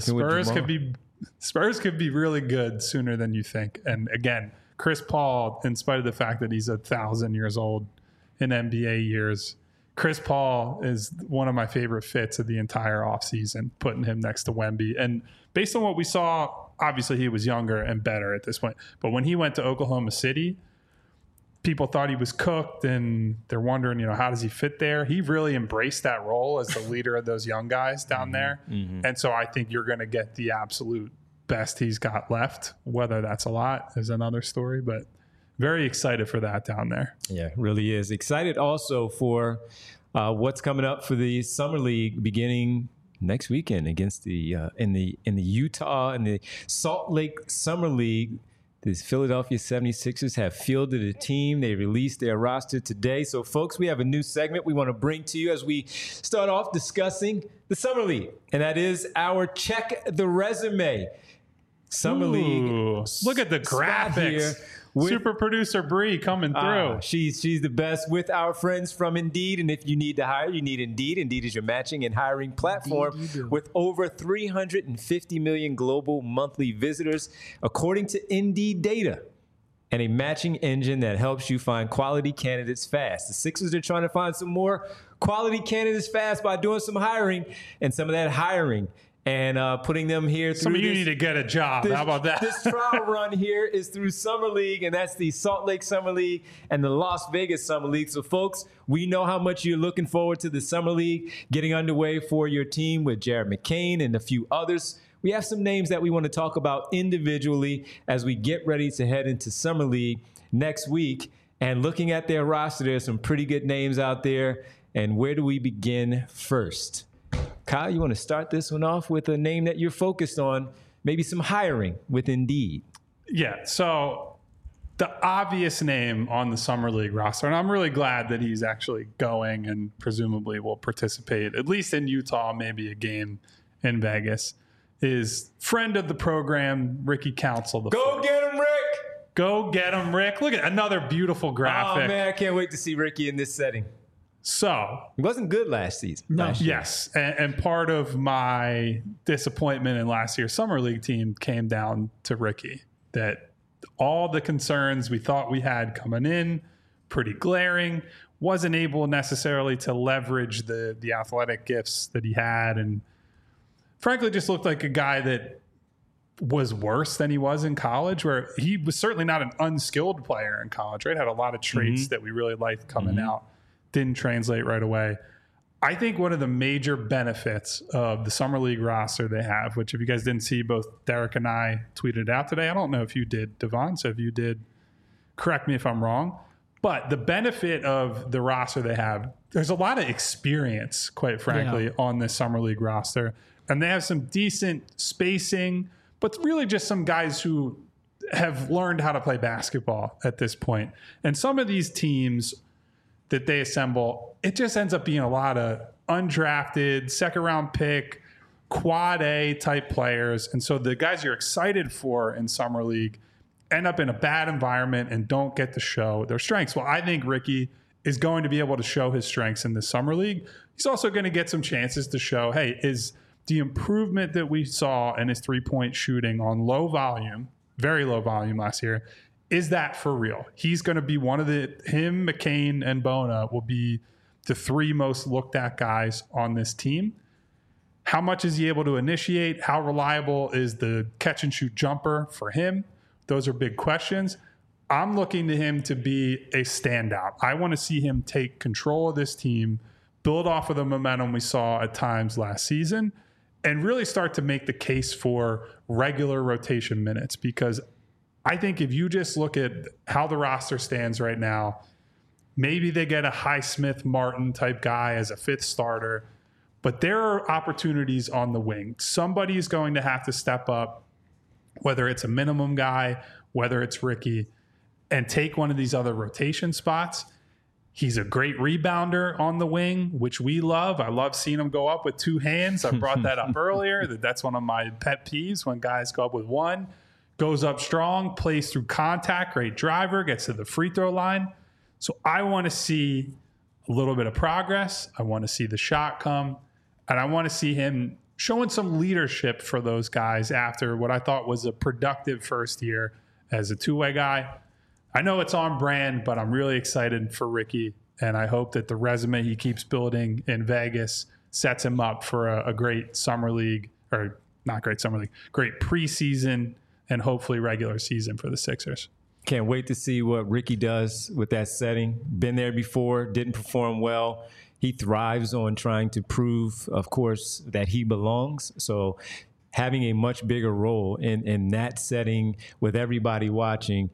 Spurs could be really good sooner than you think. And again, Chris Paul, in spite of the fact that he's 1,000 years old in NBA years, Chris Paul is one of my favorite fits of the entire offseason, putting him next to Wemby. And based on what we saw, obviously he was younger and better at this point. But when he went to Oklahoma City, people thought he was cooked, and they're wondering, how does he fit there? He really embraced that role as the leader of those young guys down there. Mm-hmm. And so I think you're going to get the absolute best he's got left. Whether that's a lot is another story, but very excited for that down there. Yeah, really is. Excited also for what's coming up for the Summer League beginning next weekend against the in the Utah and the Salt Lake Summer League. The Philadelphia 76ers have fielded a team. They released their roster today. So, folks, we have a new segment we want to bring to you as we start off discussing the Summer League. And that is our Check the Resume Summer League. Look at the graphics. Super producer Bree coming through. She's the best with our friends from Indeed. And if you need to hire, you need Indeed. Indeed is your matching and hiring platform with over 350 million global monthly visitors, according to Indeed data, and a matching engine that helps you find quality candidates fast. The Sixers are trying to find some more quality candidates fast by doing some hiring, and some of that hiring and putting them here through. Some of you need to get a job. How about that? This trial run here is through Summer League, and that's the Salt Lake Summer League and the Las Vegas Summer League. So, folks, we know how much you're looking forward to the Summer League getting underway for your team with Jared McCain and a few others. We have some names that we want to talk about individually as we get ready to head into Summer League next week. And looking at their roster, there's some pretty good names out there. And where do we begin first? Kyle, you want to start this one off with a name that you're focused on, maybe some hiring with Indeed. Yeah, so the obvious name on the Summer League roster, and I'm really glad that he's actually going and presumably will participate, at least in Utah, maybe a game in Vegas, is friend of the program, Ricky Council. Go get him, Rick! Go get him, Rick. Look at another beautiful graphic. Oh, man, I can't wait to see Ricky in this setting. So he wasn't good last season. No. Yes. And part of my disappointment in last year's Summer League team came down to Ricky, that all the concerns we thought we had coming in, pretty glaring, wasn't able necessarily to leverage the athletic gifts that he had. And frankly, just looked like a guy that was worse than he was in college, where he was certainly not an unskilled player in college, right? Had a lot of traits that we really liked coming out. Didn't translate right away. I think one of the major benefits of the Summer League roster they have, which if you guys didn't see, both Derek and I tweeted out today. I don't know if you did, Devon. So if you did, correct me if I'm wrong. But the benefit of the roster they have, there's a lot of experience, quite frankly, on this Summer League roster. And they have some decent spacing, but really just some guys who have learned how to play basketball at this point. And some of these teams that they assemble, it just ends up being a lot of undrafted, second round pick, quad A type players. And so the guys you're excited for in Summer League end up in a bad environment and don't get to show their strengths. Well, I think Ricky is going to be able to show his strengths in the Summer League. He's also going to get some chances to show, hey, is the improvement that we saw in his 3-point shooting on low volume very low volume last year. Is that for real? He's going to be one of him, McCain, and Bona will be the 3 most looked at guys on this team. How much is he able to initiate? How reliable is the catch and shoot jumper for him? Those are big questions. I'm looking to him to be a standout. I want to see him take control of this team, build off of the momentum we saw at times last season, and really start to make the case for regular rotation minutes. Because I think if you just look at how the roster stands right now, maybe they get a Highsmith Martin type guy as a 5th starter, but there are opportunities on the wing. Somebody's going to have to step up, whether it's a minimum guy, whether it's Ricky, and take one of these other rotation spots. He's a great rebounder on the wing, which we love. I love seeing him go up with 2 hands. I brought that up earlier. That's one of my pet peeves when guys go up with 1. Goes up strong, plays through contact, great driver, gets to the free throw line. So I want to see a little bit of progress. I want to see the shot come. And I want to see him showing some leadership for those guys after what I thought was a productive first year as a 2-way guy. I know it's on brand, but I'm really excited for Ricky. And I hope that the resume he keeps building in Vegas sets him up for a great summer league, or not great summer league, great preseason and hopefully regular season for the Sixers. Can't wait to see what Ricky does with that setting. Been there before, didn't perform well. He thrives on trying to prove, of course, that he belongs. So having a much bigger role in that setting with everybody watching,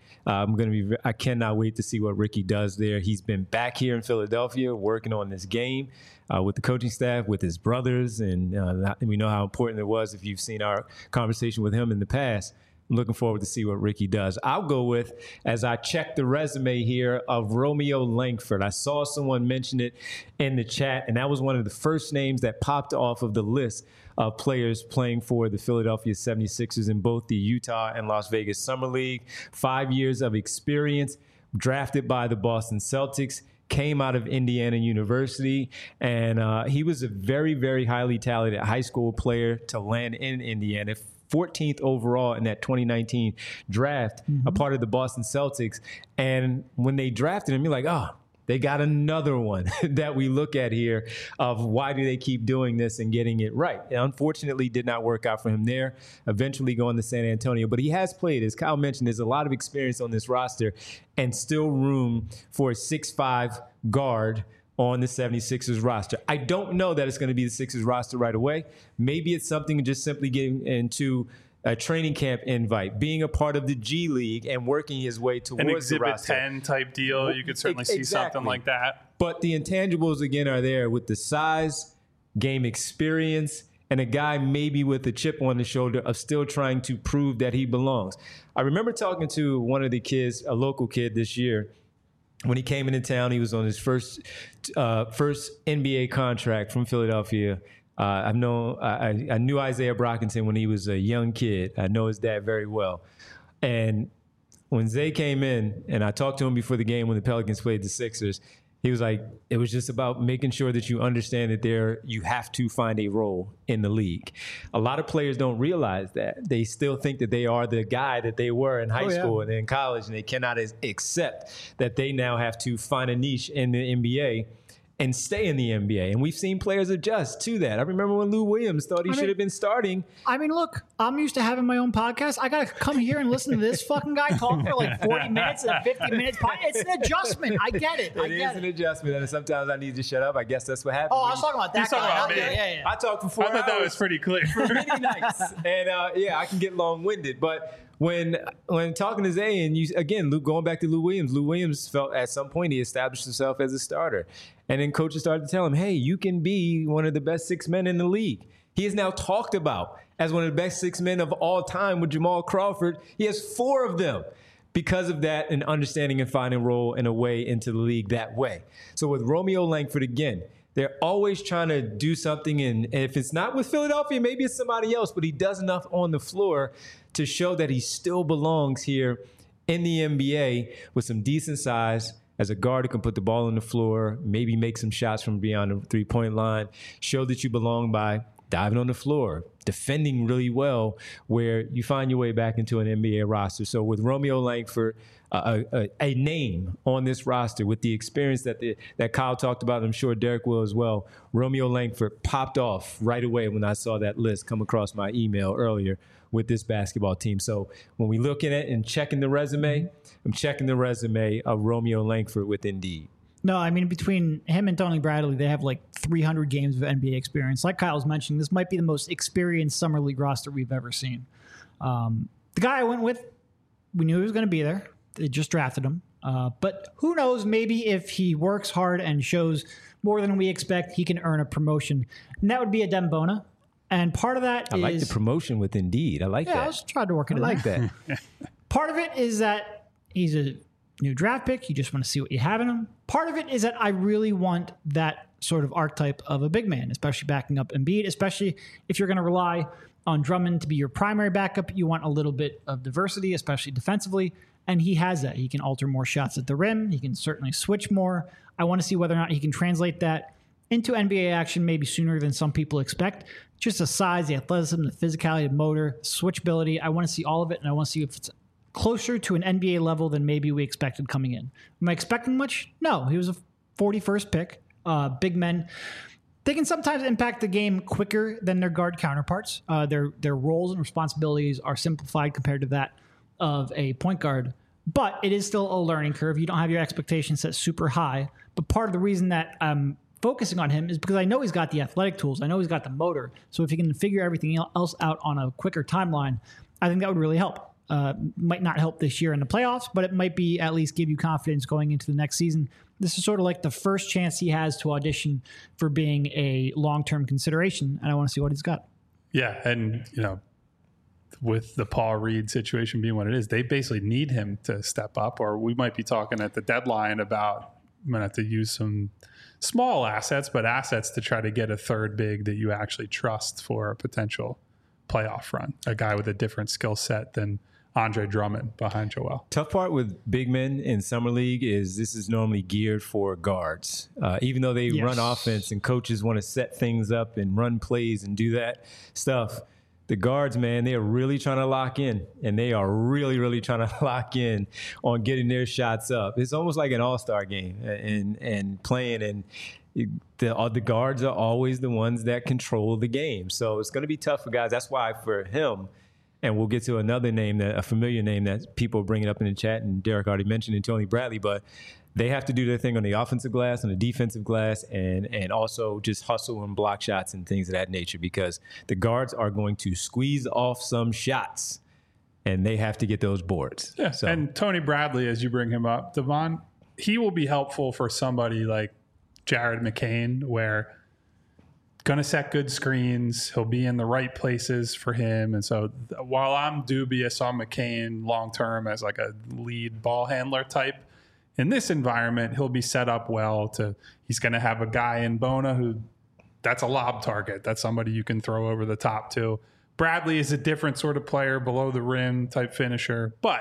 I cannot wait to see what Ricky does there. He's been back here in Philadelphia working on this game with the coaching staff, with his brothers, and we know how important it was if you've seen our conversation with him in the past. I'm looking forward to see what Ricky does. I'll go with, as I check the resume here, of Romeo Langford. I saw someone mention it in the chat, and that was one of the first names that popped off of the list of players playing for the Philadelphia 76ers in both the Utah and Las Vegas Summer League. 5 years of experience, drafted by the Boston Celtics, came out of Indiana University, and he was a very, very highly talented high school player to land in Indiana. 14th overall in that 2019 draft, a part of the Boston Celtics. And when they drafted him, you're like, oh, they got another one that we look at here of why do they keep doing this and getting it right. It unfortunately did not work out for him there, eventually going to San Antonio. But he has played, as Kyle mentioned, there's a lot of experience on this roster and still room for a 6'5" guard on the 76ers roster. I don't know that it's going to be the Sixers roster right away. Maybe it's something just simply getting into a training camp invite, being a part of the G League and working his way towards the roster. An Exhibit 10 type deal. You could certainly see something like that. But the intangibles, again, are there with the size, game experience, and a guy maybe with a chip on the shoulder of still trying to prove that he belongs. I remember talking to one of the kids, a local kid this year. When he came into town, he was on his first NBA contract from Philadelphia. I knew Isaiah Brockington when he was a young kid. I know his dad very well. And when Zay came in, and I talked to him before the game when the Pelicans played the Sixers, he was like, it was just about making sure that you understand that you have to find a role in the league. A lot of players don't realize that. They still think that they are the guy that they were in high school and in college, and they cannot accept that they now have to find a niche in the NBA and stay in the NBA. And we've seen players adjust to that. I remember when Lou Williams thought he should have been starting. I mean, look, I'm used to having my own podcast. I got to come here and listen to this fucking guy talk for like 40 minutes and 50 minutes. It's an adjustment. I get it. It is an adjustment. And sometimes I need to shut up. I guess that's what happens. Oh, I was talking about that guy. Yeah. I talked for 4 hours. I thought that was pretty clear. For many nights. And I can get long-winded. But when talking to Zay, and again, going back to Lou Williams felt at some point he established himself as a starter. And then coaches started to tell him, hey, you can be one of the best 6 men in the league. He is now talked about as one of the best 6 men of all time with Jamal Crawford. He has 4 of them because of that and understanding and finding a role in a way into the league that way. So with Romeo Langford, again, they're always trying to do something. And if it's not with Philadelphia, maybe it's somebody else, but he does enough on the floor to show that he still belongs here in the NBA with some decent size as a guard who can put the ball on the floor, maybe make some shots from beyond the three-point line, show that you belong by diving on the floor, defending really well, where you find your way back into an NBA roster. So with Romeo Langford, a name on this roster with the experience that Kyle talked about, and I'm sure Derek will as well, Romeo Langford popped off right away when I saw that list come across my email earlier with this basketball team. So when we look at it and checking the resume, I'm checking the resume of Romeo Langford with Indeed. No, I mean, between him and Tony Bradley, they have like 300 games of NBA experience. Like Kyle's mentioning, this might be the most experienced summer league roster we've ever seen. The guy I went with, we knew he was going to be there. They just drafted him. But who knows, maybe if he works hard and shows more than we expect, he can earn a promotion. And that would be Adem Bona. And part of that I like the promotion with Indeed. I like that. I was trying to work it I like that. Part of it is that he's a new draft pick. You just want to see what you have in him. Part of it is that I really want that sort of archetype of a big man, especially backing up Embiid, especially if you're going to rely on Drummond to be your primary backup. You want a little bit of diversity, especially defensively. And he has that. He can alter more shots at the rim. He can certainly switch more. I want to see whether or not he can translate that into NBA action maybe sooner than some people expect. Just the size, the athleticism, the physicality, the motor, switchability. I want to see all of it, and I want to see if it's closer to an NBA level than maybe we expected coming in. Am I expecting much? No. He was a 41st pick. Big men, they can sometimes impact the game quicker than their guard counterparts. Their roles and responsibilities are simplified compared to that of a point guard, but it is still a learning curve. You don't have your expectations set super high, but part of the reason that I'm focusing on him is because I know he's got the athletic tools. I know he's got the motor. So if he can figure everything else out on a quicker timeline, I think that would really help. Might not help this year in the playoffs, but it might be at least give you confidence going into the next season. This is sort of like the first chance he has to audition for being a long-term consideration, and I want to see what he's got. Yeah, and with the Paul Reed situation being what it is, they basically need him to step up, or we might be talking at the deadline about I'm going to have to use some small assets, but assets to try to get a third big that you actually trust for a potential playoff run, a guy with a different skill set than Andre Drummond behind Joel. Tough part with big men in Summer League is this is normally geared for guards. Even though they run offense and coaches want to set things up and run plays and do that stuff, the guards, man, they are really trying to lock in, and they are really, really trying to lock in on getting their shots up. It's almost like an all-star game and playing, and the guards are always the ones that control the game. So it's going to be tough for guys. That's why for him, and we'll get to another name, a familiar name that people are bringing up in the chat, and Derek already mentioned it, Tony Bradley, but they have to do their thing on the offensive glass, on the defensive glass, and also just hustle and block shots and things of that nature, because the guards are going to squeeze off some shots, and they have to get those boards. Yeah, so. And Tony Bradley, as you bring him up, Devon, he will be helpful for somebody like Jared McCain, where going to set good screens. He'll be in the right places for him. And so while I'm dubious on McCain long-term as like a lead ball handler type, in this environment, he'll be set up well he's going to have a guy in Bona who that's a lob target. That's somebody you can throw over the top to. Bradley is a different sort of player, below the rim type finisher, but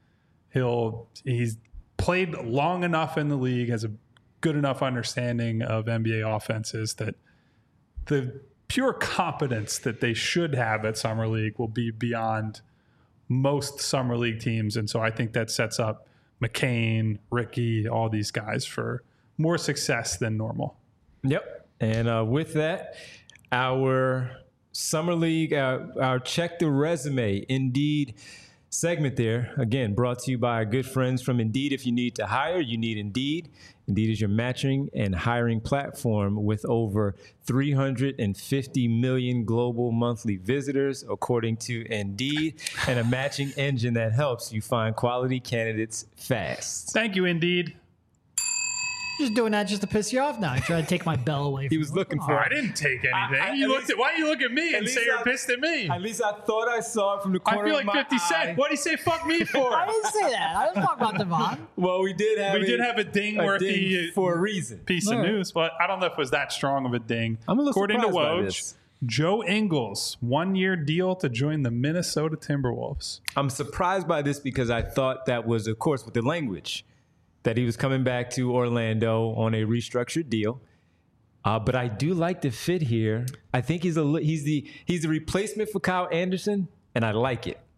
he's played long enough in the league, has a good enough understanding of NBA offenses that the pure competence that they should have at Summer League will be beyond most Summer League teams. And so I think that sets up McCain, Ricky, all these guys for more success than normal. Yep. And with that, our Summer League, our Check the Resume Indeed segment there, again, brought to you by our good friends from Indeed. If you need to hire, you need Indeed. Indeed is your matching and hiring platform with over 350 million global monthly visitors, according to Indeed, and a matching engine that helps you find quality candidates fast. Thank you, Indeed. Just doing that just to piss you off now. I tried to take my bell away from He was looking for I didn't take anything. Why do you look at me and say you're pissed at me? At least I thought I saw it from the corner I feel of like my 50 eye. Cent. What did he say fuck me for? I didn't say that. I was talking about Devon. Well, we did have a ding worthy for a reason. Piece of news, but I don't know if it was that strong of a ding. I'm a little According to surprised by Woj, this. Joe Ingles, 1-year deal to join the Minnesota Timberwolves. I'm surprised by this because I thought that was, of course, with the language, that he was coming back to Orlando on a restructured deal. But I do like the fit here. I think he's the replacement for Kyle Anderson, and I like it.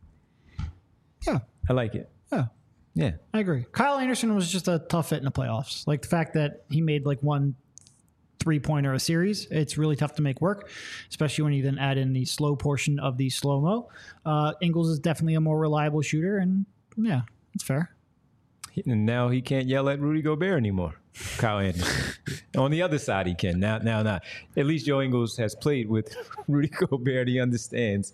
Yeah. I like it. Yeah. Yeah. I agree. Kyle Anderson was just a tough fit in the playoffs. Like the fact that he made like 1 3-pointer a series, it's really tough to make work, especially when you then add in the slow portion of the slow-mo. Ingles is definitely a more reliable shooter, and yeah, it's fair. And now he can't yell at Rudy Gobert anymore. Kyle Anderson. On the other side, he can. Now not. At least Joe Ingles has played with Rudy Gobert. He understands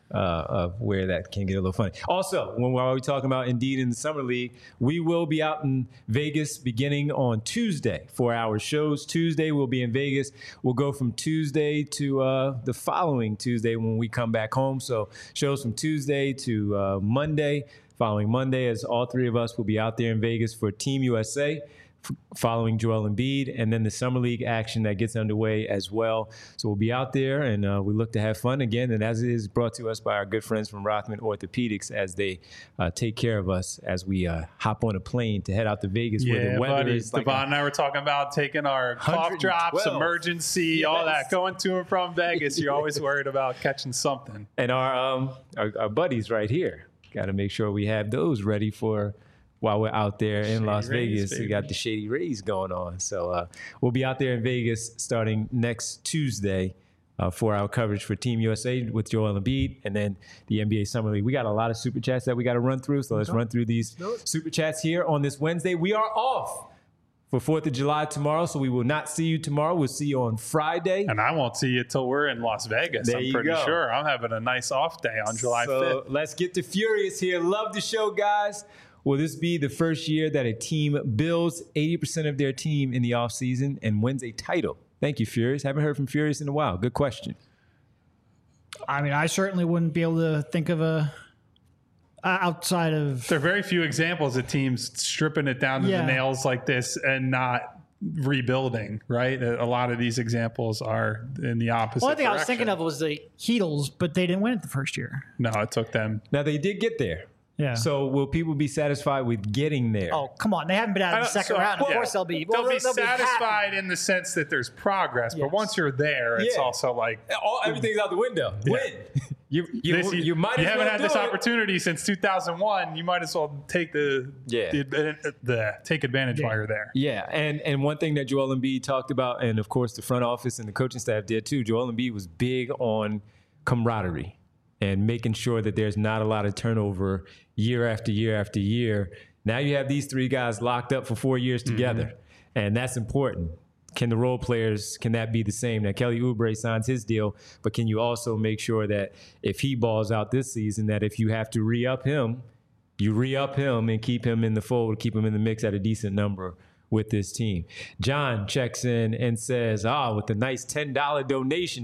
where that can get a little funny. Also, when we're talking about Indeed in the Summer League, we will be out in Vegas beginning on Tuesday for our shows. Tuesday, we'll be in Vegas. We'll go from Tuesday to the following Tuesday when we come back home. So shows from Tuesday to Monday. Following Monday, as all three of us will be out there in Vegas for Team USA, following Joel Embiid, and then the Summer League action that gets underway as well. So we'll be out there, and we look to have fun again. And as it is brought to us by our good friends from Rothman Orthopedics, as they take care of us as we hop on a plane to head out to Vegas, where the weather is like Devon and I were talking about taking our cough drops, 112. emergency, all that, going to and from Vegas. You're always worried about catching something. And our buddies right here, got to make sure we have those ready for while we're out there in Las Vegas. We got the Shady Rays going on. So we'll be out there in Vegas starting next Tuesday for our coverage for Team USA with Joel Embiid and then the NBA Summer League. We got a lot of super chats that we got to run through. So let's run through these super chats here on this Wednesday. We are off for 4th of July tomorrow, so we will not see you tomorrow. We'll see you on Friday. And I won't see you till we're in Las Vegas. There I'm pretty you go. sure. I'm having a nice off day on July 5th. Let's get to Furious here. Love the show, guys. Will this be the first year that a team builds 80% of their team in the offseason and wins a title? Thank you, Furious. Haven't heard from Furious in a while. Good question. I mean, I certainly wouldn't be able to think of a outside of. There are very few examples of teams stripping it down to Yeah. the nails like this and not rebuilding, right? A lot of these examples are in the opposite One thing I was direction. thinking of was the Heatles, but they didn't win it the first year. No, it took them. Now, they did get there. Yeah. So will people be satisfied with getting there? Oh, come on. They haven't been out of the second round. Of course they'll be. They'll be happy. satisfied in the sense that there's progress, but Yes. once you're there, it's Yeah. also like Everything's out the window. Win. You might as haven't well had do this it. opportunity since 2001. You might as well take take advantage while you're there. Yeah, and one thing that Joel Embiid talked about, and of course the front office and the coaching staff did too, Joel Embiid was big on camaraderie and making sure that there's not a lot of turnover year after year after year. Now you have these three guys locked up for 4 years together, and that's important. Can the role players, can that be the same? Now, Kelly Oubre signs his deal, but can you also make sure that if he balls out this season, that if you have to re-up him, you re-up him and keep him in the fold, keep him in the mix at a decent number with this team. John checks in and says, with the nice $10 donation.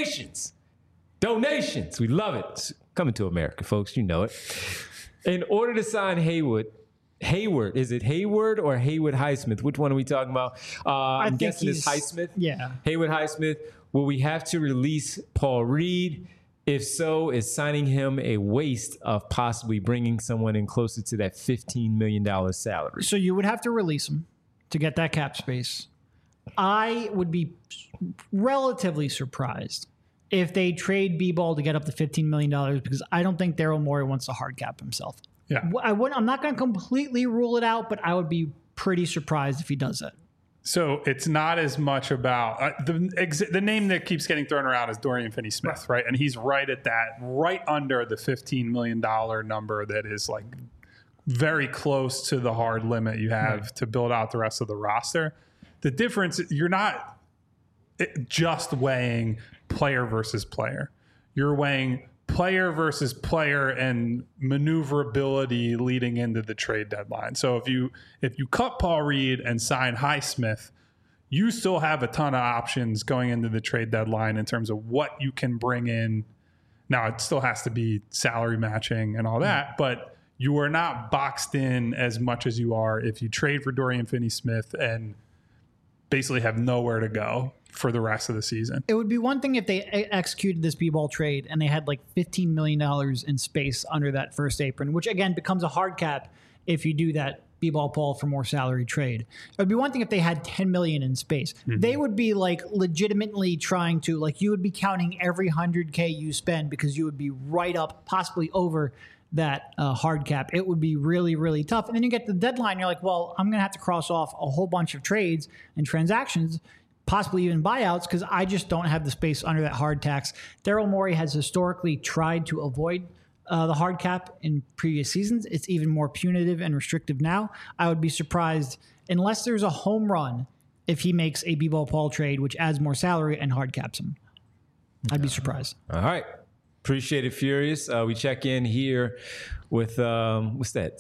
Donations. We love it. It's coming to America, folks. You know it. In order to sign Hayward, is it Hayward or Haywood Highsmith? Which one are we talking about? I'm think guessing it's he's- Highsmith. Yeah. Haywood Highsmith. Will we have to release Paul Reed? If so, is signing him a waste of possibly bringing someone in closer to that $15 million salary? So you would have to release him to get that cap space. I would be relatively surprised if they trade B-Ball to get up to $15 million because I don't think Daryl Morey wants to hard cap himself. Yeah. I'm not going to completely rule it out, but I would be pretty surprised if he does it. So it's not as much about the name that keeps getting thrown around is Dorian Finney-Smith, right? And he's right at that, right under the $15 million number that is like very close to the hard limit you have to build out the rest of the roster. The difference, you're not just weighing player versus player. You're weighing player versus player and maneuverability leading into the trade deadline. So if you cut Paul Reed and sign Highsmith, you still have a ton of options going into the trade deadline in terms of what you can bring in. Now, it still has to be salary matching and all that, but you are not boxed in as much as you are if you trade for Dorian Finney-Smith and basically have nowhere to go for the rest of the season. It would be one thing if they executed this B-Ball trade and they had like $15 million in space under that first apron, which again becomes a hard cap if you do that B-ball Paul for more salary trade. It would be one thing if they had $10 million in space. They would be like legitimately trying to, like, you would be counting every $100K you spend because you would be right up, possibly over that hard cap. It would be really, really tough. And then you get to the deadline, you're like, well, I'm going to have to cross off a whole bunch of trades and transactions, possibly even buyouts, because I just don't have the space under that hard tax. Daryl Morey has historically tried to avoid the hard cap in previous seasons. It's even more punitive and restrictive now. I would be surprised, unless there's a home run, if he makes a B-ball Paul trade, which adds more salary and hard caps him. I'd be surprised. All right. Appreciate it, Furious. We check in here with, what's that?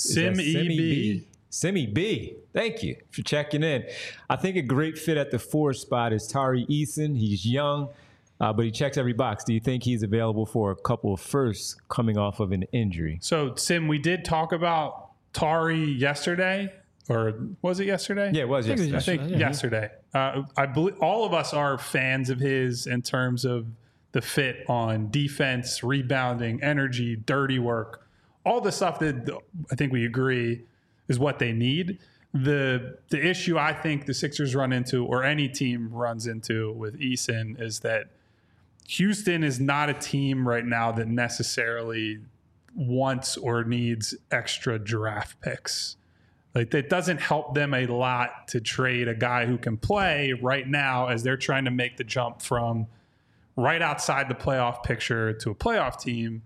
Simi B. Thank you for checking in. I think a great fit at the 4 spot is Tari Eason. He's young, but he checks every box. Do you think he's available for a couple of firsts coming off of an injury? So, Sim, we did talk about Tari yesterday. Or was it yesterday? Yeah, it was yesterday. I think yesterday. I believe all of us are fans of his in terms of the fit on defense, rebounding, energy, dirty work, all the stuff that I think we agree is what they need. The issue I think the Sixers run into, or any team runs into with Eason, is that Houston is not a team right now that necessarily wants or needs extra draft picks. Like, that doesn't help them a lot to trade a guy who can play right now as they're trying to make the jump from right outside the playoff picture to a playoff team.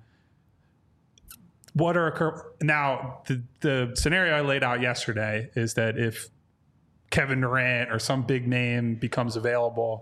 Now, the scenario I laid out yesterday is that if Kevin Durant or some big name becomes available,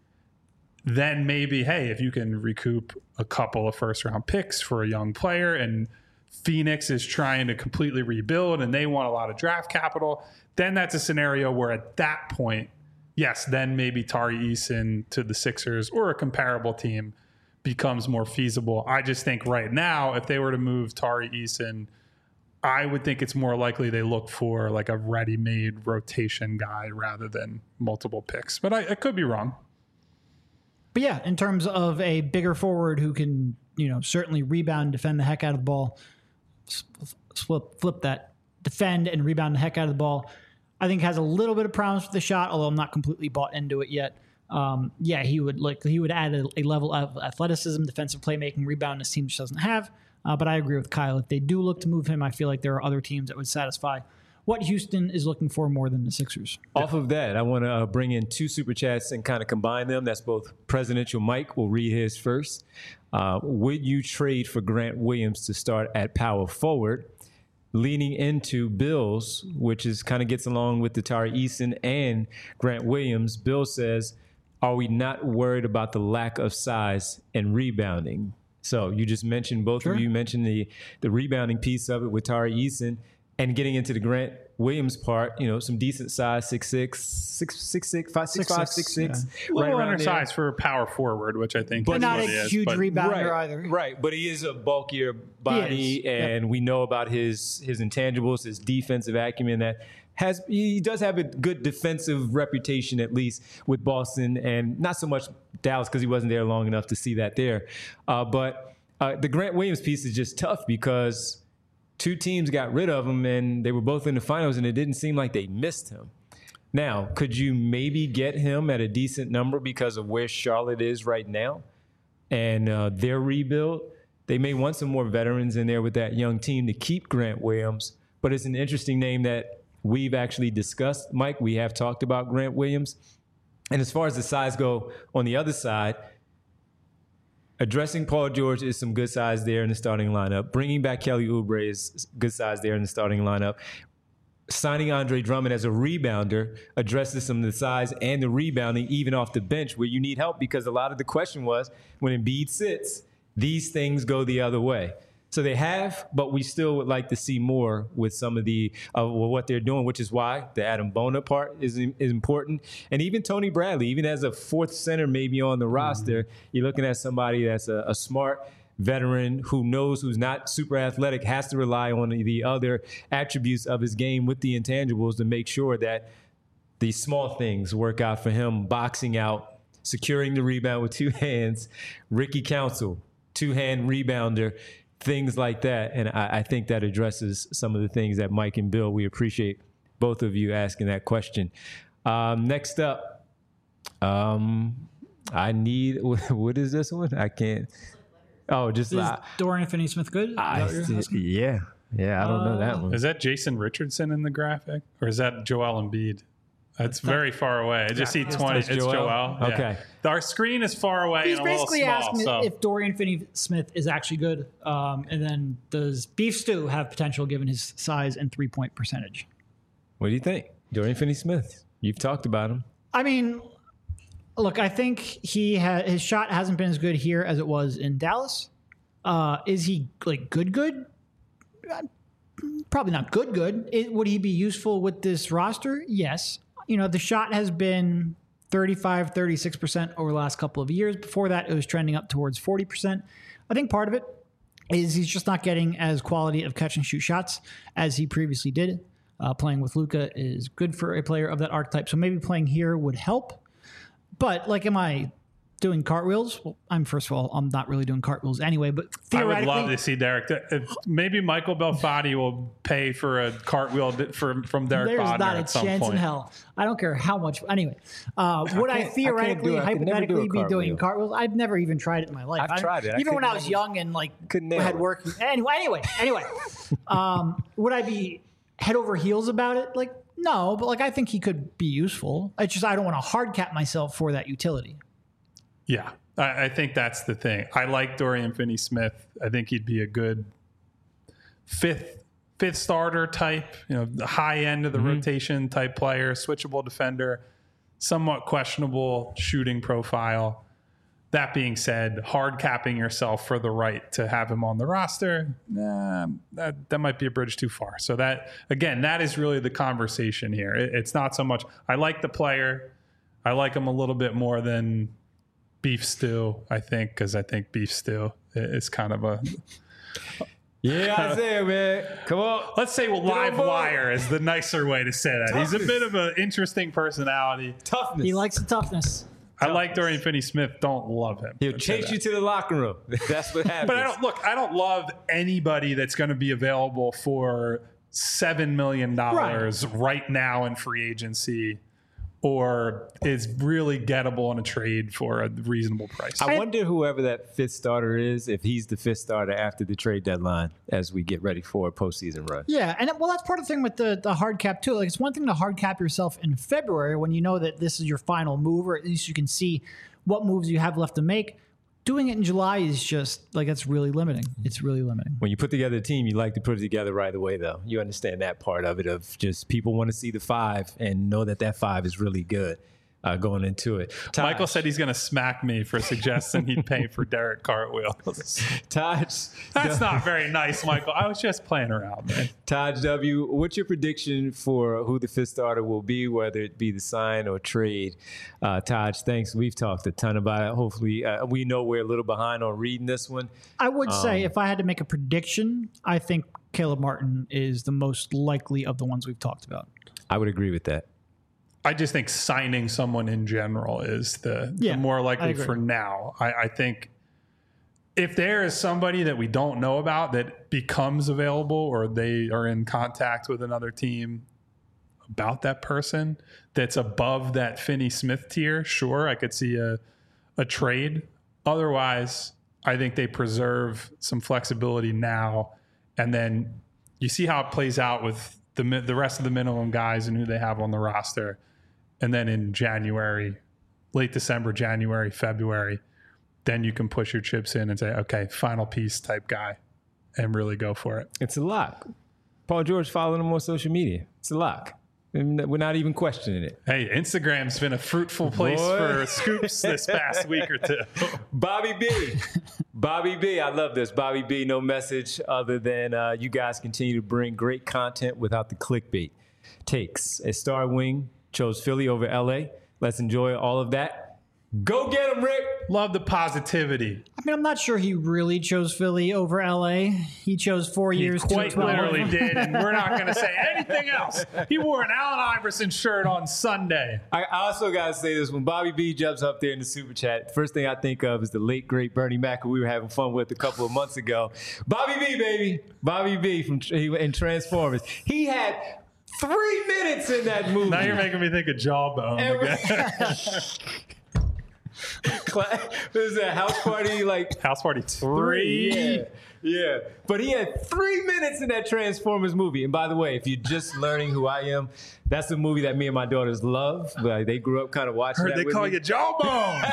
then maybe, hey, if you can recoup a couple of first-round picks for a young player and Phoenix is trying to completely rebuild and they want a lot of draft capital, then that's a scenario where at that point, yes, then maybe Tari Eason to the Sixers or a comparable team becomes more feasible. I just think right now, if they were to move Tari Eason, I would think it's more likely they look for like a ready-made rotation guy rather than multiple picks. But I could be wrong. But yeah, in terms of a bigger forward who can, certainly rebound, defend the heck out of the ball, flip that, defend and rebound the heck out of the ball, I think has a little bit of promise with the shot, although I'm not completely bought into it yet. He would add a level of athleticism, defensive playmaking, rebound this team just doesn't have. But I agree with Kyle. If they do look to move him, I feel like there are other teams that would satisfy what Houston is looking for more than the Sixers. Off of that, I want to bring in 2 super chats and kind of combine them. That's both Presidential Mike. We'll read his first. Would you trade for Grant Williams to start at power forward? Leaning into Bills, which is kind of gets along with the Tari Eason and Grant Williams. Bill says, are we not worried about the lack of size and rebounding? So you just mentioned, both of you mentioned the rebounding piece of it with Tari Eason, and getting into the Grant Williams part, some decent size, 6'6", 6'5", 6'6". Yeah. A little undersized for a power forward, which I think but is not what a he is, huge rebounder either. Right, but he is a bulkier body, and we know about his intangibles, his defensive acumen that he does have a good defensive reputation, at least with Boston, and not so much Dallas because he wasn't there long enough to see that there. But the Grant Williams piece is just tough because 2 teams got rid of him, and they were both in the finals, and it didn't seem like they missed him. Now, could you maybe get him at a decent number because of where Charlotte is right now and their rebuild? They may want some more veterans in there with that young team to keep Grant Williams, but it's an interesting name that we've actually discussed. Mike, we have talked about Grant Williams. And as far as the size go on the other side, addressing Paul George is some good size there in the starting lineup. Bringing back Kelly Oubre is good size there in the starting lineup. Signing Andre Drummond as a rebounder addresses some of the size and the rebounding, even off the bench, where you need help, because a lot of the question was, when Embiid sits, these things go the other way. So they have, but we still would like to see more with some of the what they're doing, which is why the Adam Bona part is important. And even Tony Bradley, even as a 4th center maybe on the roster, you're looking at somebody that's a smart veteran who knows, who's not super athletic, has to rely on the other attributes of his game with the intangibles to make sure that these small things work out for him. Boxing out, securing the rebound with 2 hands. Ricky Council, 2-hand rebounder. things like that. And I think that addresses some of the things that Mike and Bill, we appreciate both of you asking that question. Next up, I need, what is this one? I can't. Oh, just Is Dorian Finney-Smith good? yeah. I don't know that one. Is that Jason Richardson in the graphic? Or is that Joel Embiid? It's very far away. I just see 20. It's Joel. Yeah. Okay. Our screen is far away He's and a little basically small. asking So. if Dorian Finney-Smith is actually good. And then does Beef Stew have potential given his size and 3-point percentage? What do you think? Dorian Finney-Smith. You've talked about him. I mean, look, I think his shot hasn't been as good here as it was in Dallas. Is he like good? Probably not good. Would he be useful with this roster? Yes. You know, the shot has been 35, 36% over the last couple of years. Before that, it was trending up towards 40%. I think part of it is he's just not getting as quality of catch and shoot shots as he previously did. Playing with Luka is good for a player of that archetype. So maybe playing here would help. But like, am I doing cartwheels? Well, first of all, I'm not really doing cartwheels anyway, but I would theoretically, love to see Derek. Maybe Michael Belfatti will pay for a cartwheel from Derek there's Bodner not a at some chance point. in hell. I don't care how much. Anyway, would I theoretically, I could never do a hypothetically be doing cartwheel. cartwheels? I've never even tried it in my life. I've tried it. Even when I was young and like couldn't nail had it. work. Anyway. Would I be head over heels about it? Like, no, but like I think he could be useful. It's just I don't want to hard cap myself for that utility. Yeah, I think that's the thing. I like Dorian Finney-Smith. I think he'd be a good fifth starter type, the high end of the rotation type player, switchable defender, somewhat questionable shooting profile. That being said, hard capping yourself for the right to have him on the roster, that might be a bridge too far. So that is really the conversation here. It's not so much, I like the player. I like him a little bit more than Beef Stew, I think, because I think Beef Stew is kind of a... Yeah, Isaiah, man. Come on. Let's say live wire is the nicer way to say that. He's a bit of an interesting personality. Toughness. He likes the toughness. I like Dorian Finney-Smith. Don't love him. He'll chase you to the locker room. That's what happens. But I don't love anybody that's going to be available for $7 million right now in free agency, or is really gettable in a trade for a reasonable price. I wonder whoever that fifth starter is, if he's the fifth starter after the trade deadline as we get ready for a postseason run. Yeah, and well, that's part of the thing with the hard cap too. Like, it's one thing to hard cap yourself in February when you know that this is your final move, or at least you can see what moves you have left to make. Doing it in July is just like, that's really limiting. It's really limiting. When you put together a team, you like to put it together right away, though. You understand that part of it, of just people want to see the five and know that five is really good going into it. Taj, Michael said he's going to smack me for suggesting he'd pay for Derek Cartwheels. Taj, That's not very nice, Michael. I was just playing around, man. Taj W., what's your prediction for who the fifth starter will be, whether it be the sign or trade? Taj, thanks. We've talked a ton about it. Hopefully, we know we're a little behind on reading this one. I would say if I had to make a prediction, I think Caleb Martin is the most likely of the ones we've talked about. I would agree with that. I just think signing someone in general is the more likely for now. I think if there is somebody that we don't know about that becomes available, or they are in contact with another team about that person that's above that Finney-Smith tier, sure, I could see a trade. Otherwise, I think they preserve some flexibility now, and then you see how it plays out with the rest of the minimum guys and who they have on the roster. And then in January, late December, January, February, then you can push your chips in and say, okay, final piece type guy, and really go for it. It's a lock. Paul George following him on social media. It's a lock. And we're not even questioning it. Hey, Instagram's been a fruitful place for scoops this past week or two. Bobby B, I love this. Bobby B, no message other than you guys continue to bring great content without the clickbait takes. A Star Wing chose Philly over LA. Let's enjoy all of that. Go get him, Rick. Love the positivity. I mean, I'm not sure he really chose Philly over LA. He chose 4 He years. quite 212. literally did, and we're not going to say anything else. He wore an Allen Iverson shirt on Sunday. I also got to say this. When Bobby B jumps up there in the super chat, first thing I think of is the late, great Bernie Mac, who we were having fun with a couple of months ago. Bobby B, baby. Bobby B in Transformers. He had 3 minutes in that movie. Now you're making me think of Jawbone again. What is that, House Party? Like House Party 3. Yeah. But he had 3 minutes in that Transformers movie. And by the way, if you're just learning who I am, that's a movie that me and my daughters love. Like, they grew up kind of watching Heard that they with call me. you Jawbone.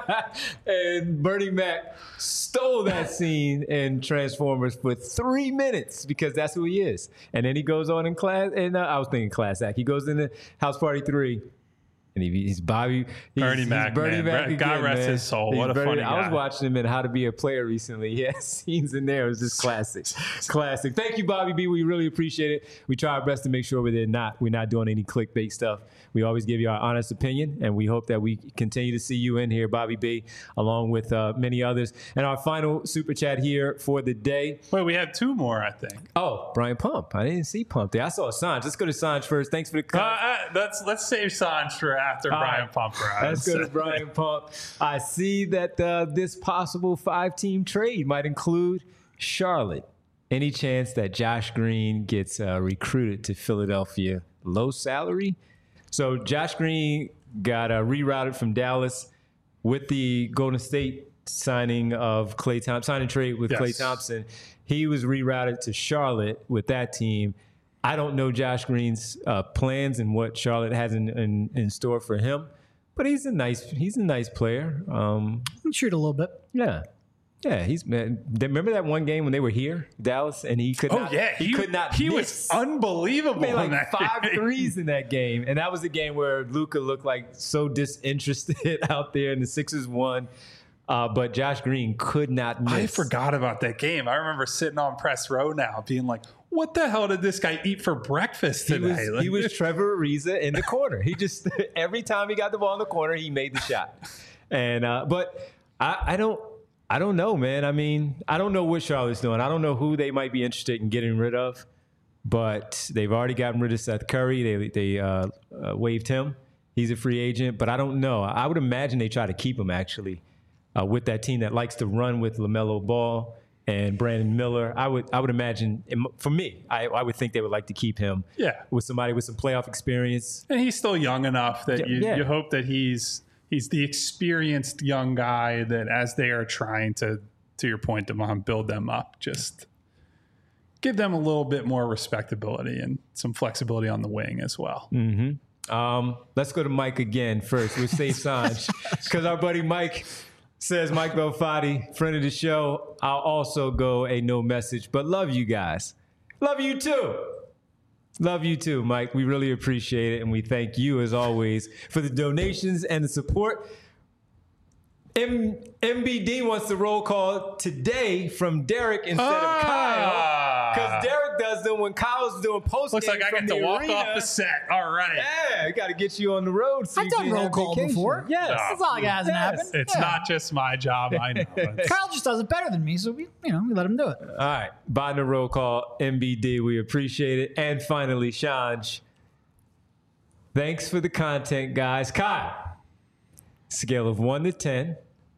And Bernie Mac stole that scene in Transformers for 3 minutes because that's who he is. And then he goes on in class, and I was thinking Class Act. He goes into House Party 3. And he's Bobby. Bernie Mac, Bernie man. Mac again, God rest man. his soul. He's What a funny I was guy. watching him in How to Be a Player recently. He had scenes in there. It was just classic. Classic. Thank you, Bobby B. We really appreciate it. We try our best to make sure we're not doing any clickbait stuff. We always give you our honest opinion, and we hope that we continue to see you in here, Bobby B., along with many others. And our final super chat here for the day. Wait, we have 2 more, I think. Oh, Brian Pump. I didn't see Pump there. I saw Sanj. Let's go to Sanj first. Thanks for the Let's save Sanj for after Brian Pump arrives. Let's go to Brian Pump. I see that this possible 5-team trade might include Charlotte. Any chance that Josh Green gets recruited to Philadelphia? Low salary? So Josh Green got rerouted from Dallas with the Golden State signing of Klay Thompson, signing trade with Yes. Klay Thompson. He was rerouted to Charlotte with that team. I don't know Josh Green's plans and what Charlotte has in store for him, but he's a nice player. Shoot a little bit. Yeah, remember that one game when they were here, Dallas, and he could not. He could not. He miss. was unbelievable. Made in like that 5 game. threes in that game, and that was the game where Luka looked like so disinterested out there, and the Sixers won. But Josh Green could not miss. I forgot about that game. I remember sitting on press row now, being like, "What the hell did this guy eat for breakfast today?" He was Trevor Ariza in the corner. He just every time he got the ball in the corner, he made the shot. And but I don't know, man. I mean, I don't know what Charlotte's doing. I don't know who they might be interested in getting rid of, but they've already gotten rid of Seth Curry. They waived him. He's a free agent, but I don't know. I would imagine they try to keep him actually with that team that likes to run with LaMelo Ball and Brandon Miller. I would imagine, for me, I would think they would like to keep him. Yeah. With somebody with some playoff experience. And he's still young enough that Yeah. you hope that he's the experienced young guy that, as they are trying to your point, Devon, build them up, just give them a little bit more respectability and some flexibility on the wing as well. Let's go to Mike again first. We'll save Sanj because our buddy Mike says, Mike Belfatti, friend of the show, I'll also go a no message, but love you guys. Love you too. Love you too, Mike. We really appreciate it, and we thank you, as always, for the donations and the support. MBD wants the roll call today from Derek instead of Kyle, because Derek does them when Kyle's doing post. Looks like I get to walk off the set. All right. Yeah, got to get you on the road. So I've done roll call before. Yes. That's not like it hasn't happened. It's not just my job. I know. It's- Kyle just does it better than me, so we let him do it. All right, by the roll call, MBD, we appreciate it. And finally, Shanj, thanks for the content, guys. Kyle, scale of 1 to 10,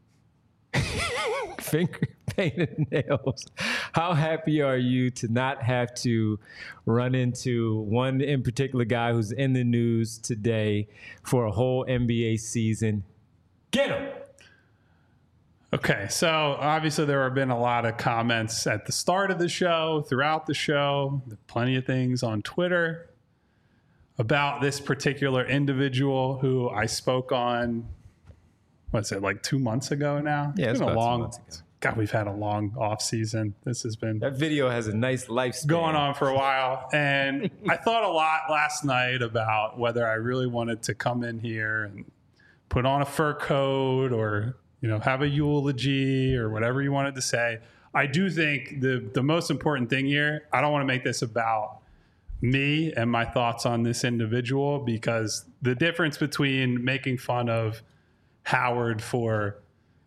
finger painted nails. How happy are you to not have to run into one in particular guy who's in the news today for a whole NBA season? Get him. Okay, so obviously there have been a lot of comments at the start of the show, throughout the show, plenty of things on Twitter about this particular individual who I spoke on, what's it, like 2 months ago now? Yeah, it's been about a 2 long, months ago. God, we've had a long off season. This has been That video has a nice lifespan. going on for a while. And I thought a lot last night about whether I really wanted to come in here and put on a fur coat or, have a eulogy or whatever you wanted to say. I do think the most important thing here, I don't want to make this about me and my thoughts on this individual, because the difference between making fun of Howard for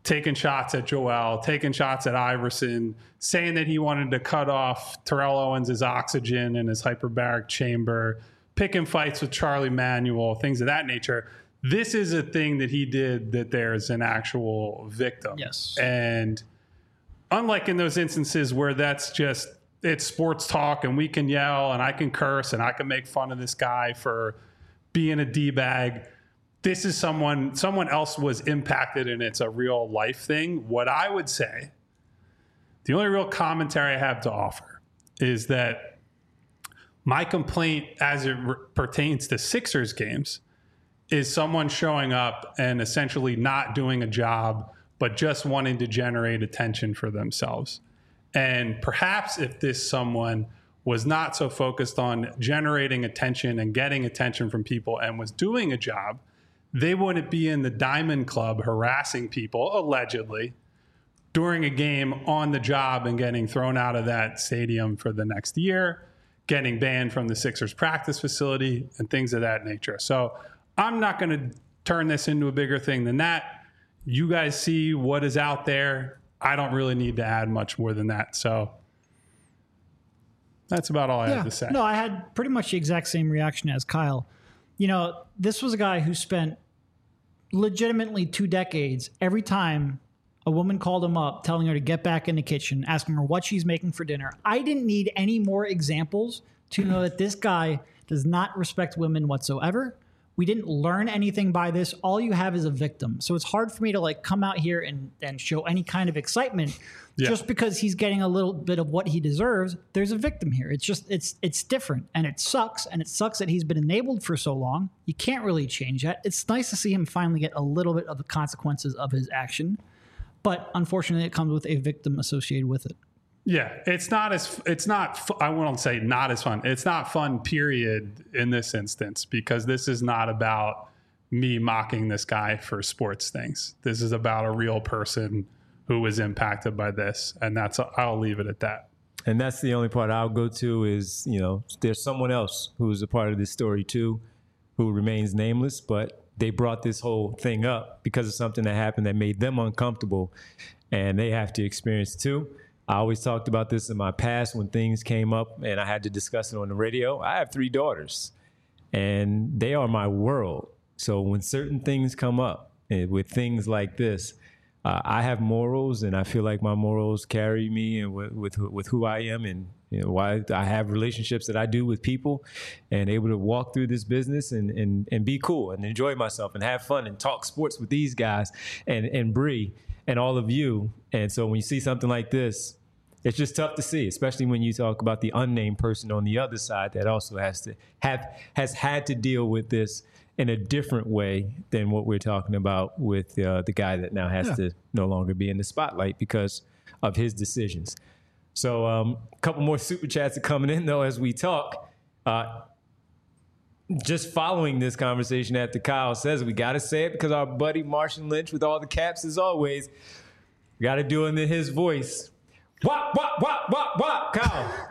taking shots at Joel, taking shots at Iverson, saying that he wanted to cut off Terrell Owens' oxygen in his hyperbaric chamber, picking fights with Charlie Manuel, things of that nature. This is a thing that he did that there's an actual victim. Yes. And unlike in those instances where that's just, it's sports talk and we can yell and I can curse and I can make fun of this guy for being a D-bag, this is someone else was impacted and it's a real life thing. What I would say, the only real commentary I have to offer is that my complaint as it pertains to Sixers games is someone showing up and essentially not doing a job, but just wanting to generate attention for themselves. And perhaps if this someone was not so focused on generating attention and getting attention from people and was doing a job, they wouldn't be in the Diamond Club harassing people, allegedly, during a game on the job and getting thrown out of that stadium for the next year, getting banned from the Sixers practice facility, and things of that nature. So I'm not going to turn this into a bigger thing than that. You guys see what is out there. I don't really need to add much more than that. So that's about all I have to say. No, I had pretty much the exact same reaction as Kyle. You know, this was a guy who spent legitimately 2 decades every time a woman called him up telling her to get back in the kitchen, asking her what she's making for dinner. I didn't need any more examples to know that this guy does not respect women whatsoever. We didn't learn anything by this. All you have is a victim. So it's hard for me to like come out here and show any kind of excitement just because he's getting a little bit of what he deserves. There's a victim here. It's just, it's different and it sucks. And it sucks that he's been enabled for so long. You can't really change that. It's nice to see him finally get a little bit of the consequences of his action. But unfortunately, it comes with a victim associated with it. Yeah, I won't say not as fun. It's not fun, period, in this instance, because this is not about me mocking this guy for sports things. This is about a real person who was impacted by this. And I'll leave it at that. And that's the only part I'll go to is, you know, there's someone else who's a part of this story too, who remains nameless, but they brought this whole thing up because of something that happened that made them uncomfortable, and they have to experience it too. I always talked about this in my past when things came up and I had to discuss it on the radio. I have 3 daughters and they are my world. So when certain things come up with things like this, I have morals and I feel like my morals carry me and with who I am, and you know why I have relationships that I do with people and able to walk through this business and be cool and enjoy myself and have fun and talk sports with these guys and Bree and all of you. And so when you see something like this, it's just tough to see, especially when you talk about the unnamed person on the other side that also has had to deal with this in a different way than what we're talking about with the guy that now has to no longer be in the spotlight because of his decisions. So a couple more super chats are coming in, though, as we talk. Just following this conversation after Kyle says, we got to say it because our buddy Marshawn Lynch with all the caps, as always, we got to do it in his voice. Wop, wop, wop, wop, wop, Kyle.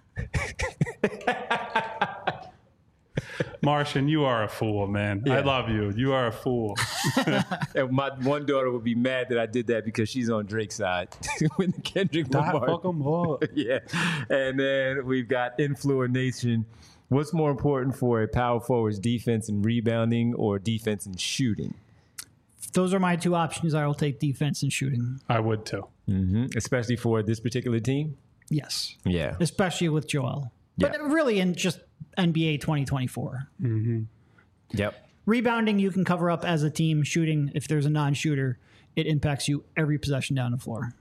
Martian, you are a fool, man. Yeah. I love you. You are a fool. And my one daughter would be mad that I did that because she's on Drake's side with Kendrick Lamar. Fuck 'em up. Yeah. And then we've got Influor Nation. What's more important for a power forward's defense and rebounding or defense and shooting? Those are my 2 options. I will take defense and shooting. I would too. Mm-hmm. Especially for this particular team? Yes. Yeah. Especially with Joel. Yeah. But really in just NBA 2024. Mm-hmm. Yep. Rebounding, you can cover up as a team. Shooting, if there's a non-shooter, it impacts you every possession down the floor.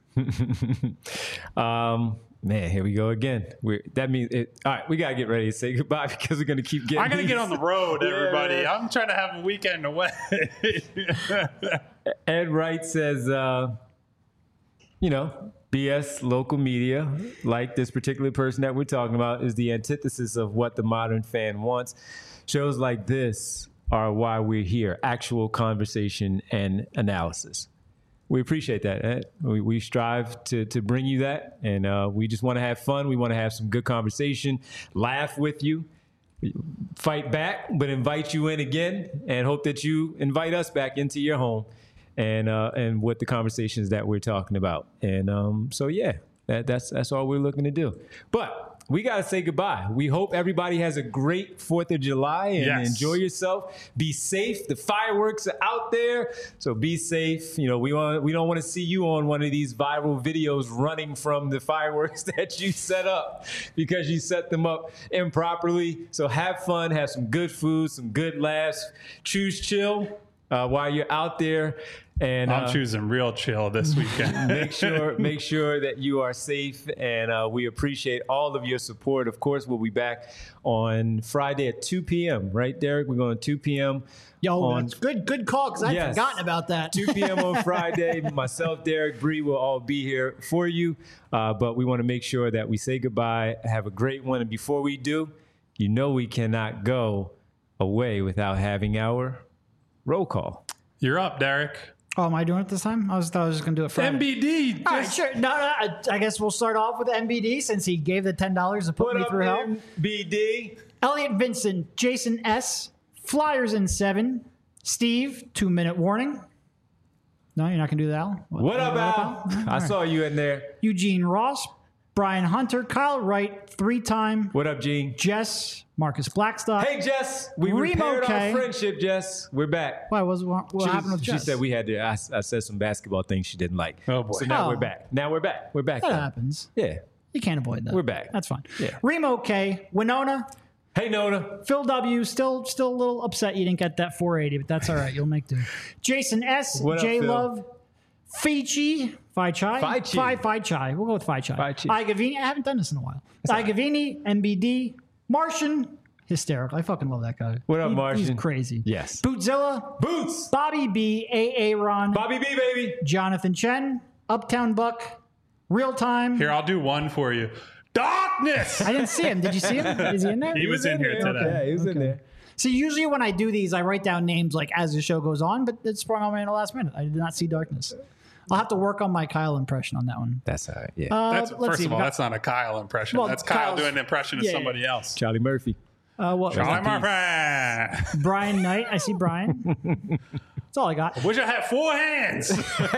Man, here we go again. That means it. All right, we got to get ready to say goodbye because we're going to keep getting I'm going to get on the road, everybody. Yeah. I'm trying to have a weekend away. Ed Wright says, BS local media, like this particular person that we're talking about, is the antithesis of what the modern fan wants. Shows like this are why we're here. Actual conversation and analysis. We appreciate that, Ed. We strive to bring you that, and we just want to have fun. We want to have some good conversation, laugh with you, fight back, but invite you in again, and hope that you invite us back into your home. and what the conversations that we're talking about. And so yeah, that's all we're looking to do. But we got to say goodbye. We hope everybody has a great 4th of July and enjoy yourself. Be safe. The fireworks are out there, so be safe. You know, we don't want to see you on one of these viral videos running from the fireworks that you set up because you set them up improperly. So have fun, have some good food, some good laughs. Choose chill while you're out there. And I'm choosing real chill this weekend. make sure that you are safe, and we appreciate all of your support. Of course, we'll be back on Friday at 2 p.m. Right, Derek? We're going 2 p.m. That's good call, because I'd forgotten about that. 2 p.m. on Friday. Myself, Derek, Bree will all be here for you, but we want to make sure that we say goodbye, have a great one, and before we do, you know we cannot go away without having our roll call. You're up, Derek. Oh, am I doing it this time? I thought I was just going to do it Friday. MBD. All right, sure. No, I guess we'll start off with MBD since he gave the $10 to put me through hell. MBD. Elliot Vincent, Jason S., Flyers in 7, Steve, 2-minute warning. No, you're not going to do that, Al? What up, Al? I saw you in there. Eugene Ross, Brian Hunter, Kyle Wright, 3-time. What up, Gene? Jess, Marcus Blackstock. Hey, Jess. We repaired our friendship, Jess. We're back. Why? What happened with Jess? She said we had to. I said some basketball things she didn't like. Oh, boy. So now we're back. We're back. That happens. Yeah. You can't avoid that. We're back. That's fine. Yeah. Remo K, Winona. Hey, Nona. Phil W, still a little upset you didn't get that 480, but that's all right. You'll make do. Jason S, What up, J Phil? Love, Fichi. We'll go with Phi Chai. Igavini. I haven't done this in a while. Igavini, MBD, Martian, hysterical. I fucking love that guy. What up, Martian? He's crazy. Yes. Bootzilla, Boots. Bobby B, AA Ron, Bobby B, baby. Jonathan Chen, Uptown Buck, Real Time. Here, I'll do one for you. Darkness. I didn't see him. Did you see him? Is he in there? He was in here today. Yeah, he was in there. See, usually when I do these, I write down names like as the show goes on, but it sprung on me in the last minute. I did not see Darkness. I'll have to work on my Kyle impression on that one. That's all right. Yeah. First of all, that's not a Kyle impression. Well, that's Kyle Kyle's- doing an impression of somebody else. Charlie Murphy. Charlie Murphy. Brian Knight. I see Brian. That's all I got. Wish I had 4 hands.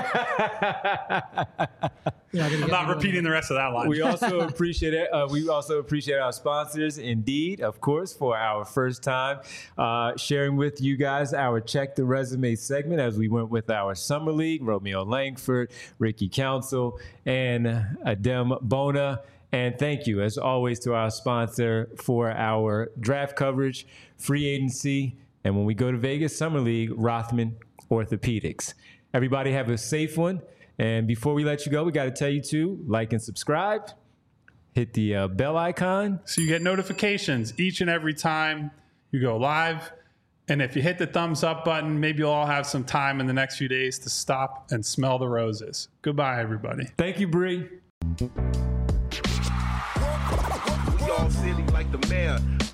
I'm not repeating the rest of that line. We also appreciate it. We also appreciate our sponsors, Indeed, of course, for our first time sharing with you guys our Check the Resume segment as we went with our Summer League, Romeo Langford, Ricky Council, and Adem Bona. And thank you, as always, to our sponsor for our draft coverage, free agency, and when we go to Vegas, Summer League, Rothman Orthopedics. Everybody have a safe one. And before we let you go, we got to tell you to like and subscribe, hit the bell icon. So you get notifications each and every time you go live. And if you hit the thumbs up button, maybe you'll all have some time in the next few days to stop and smell the roses. Goodbye, everybody. Thank you, Bree. We all silly like the mayor.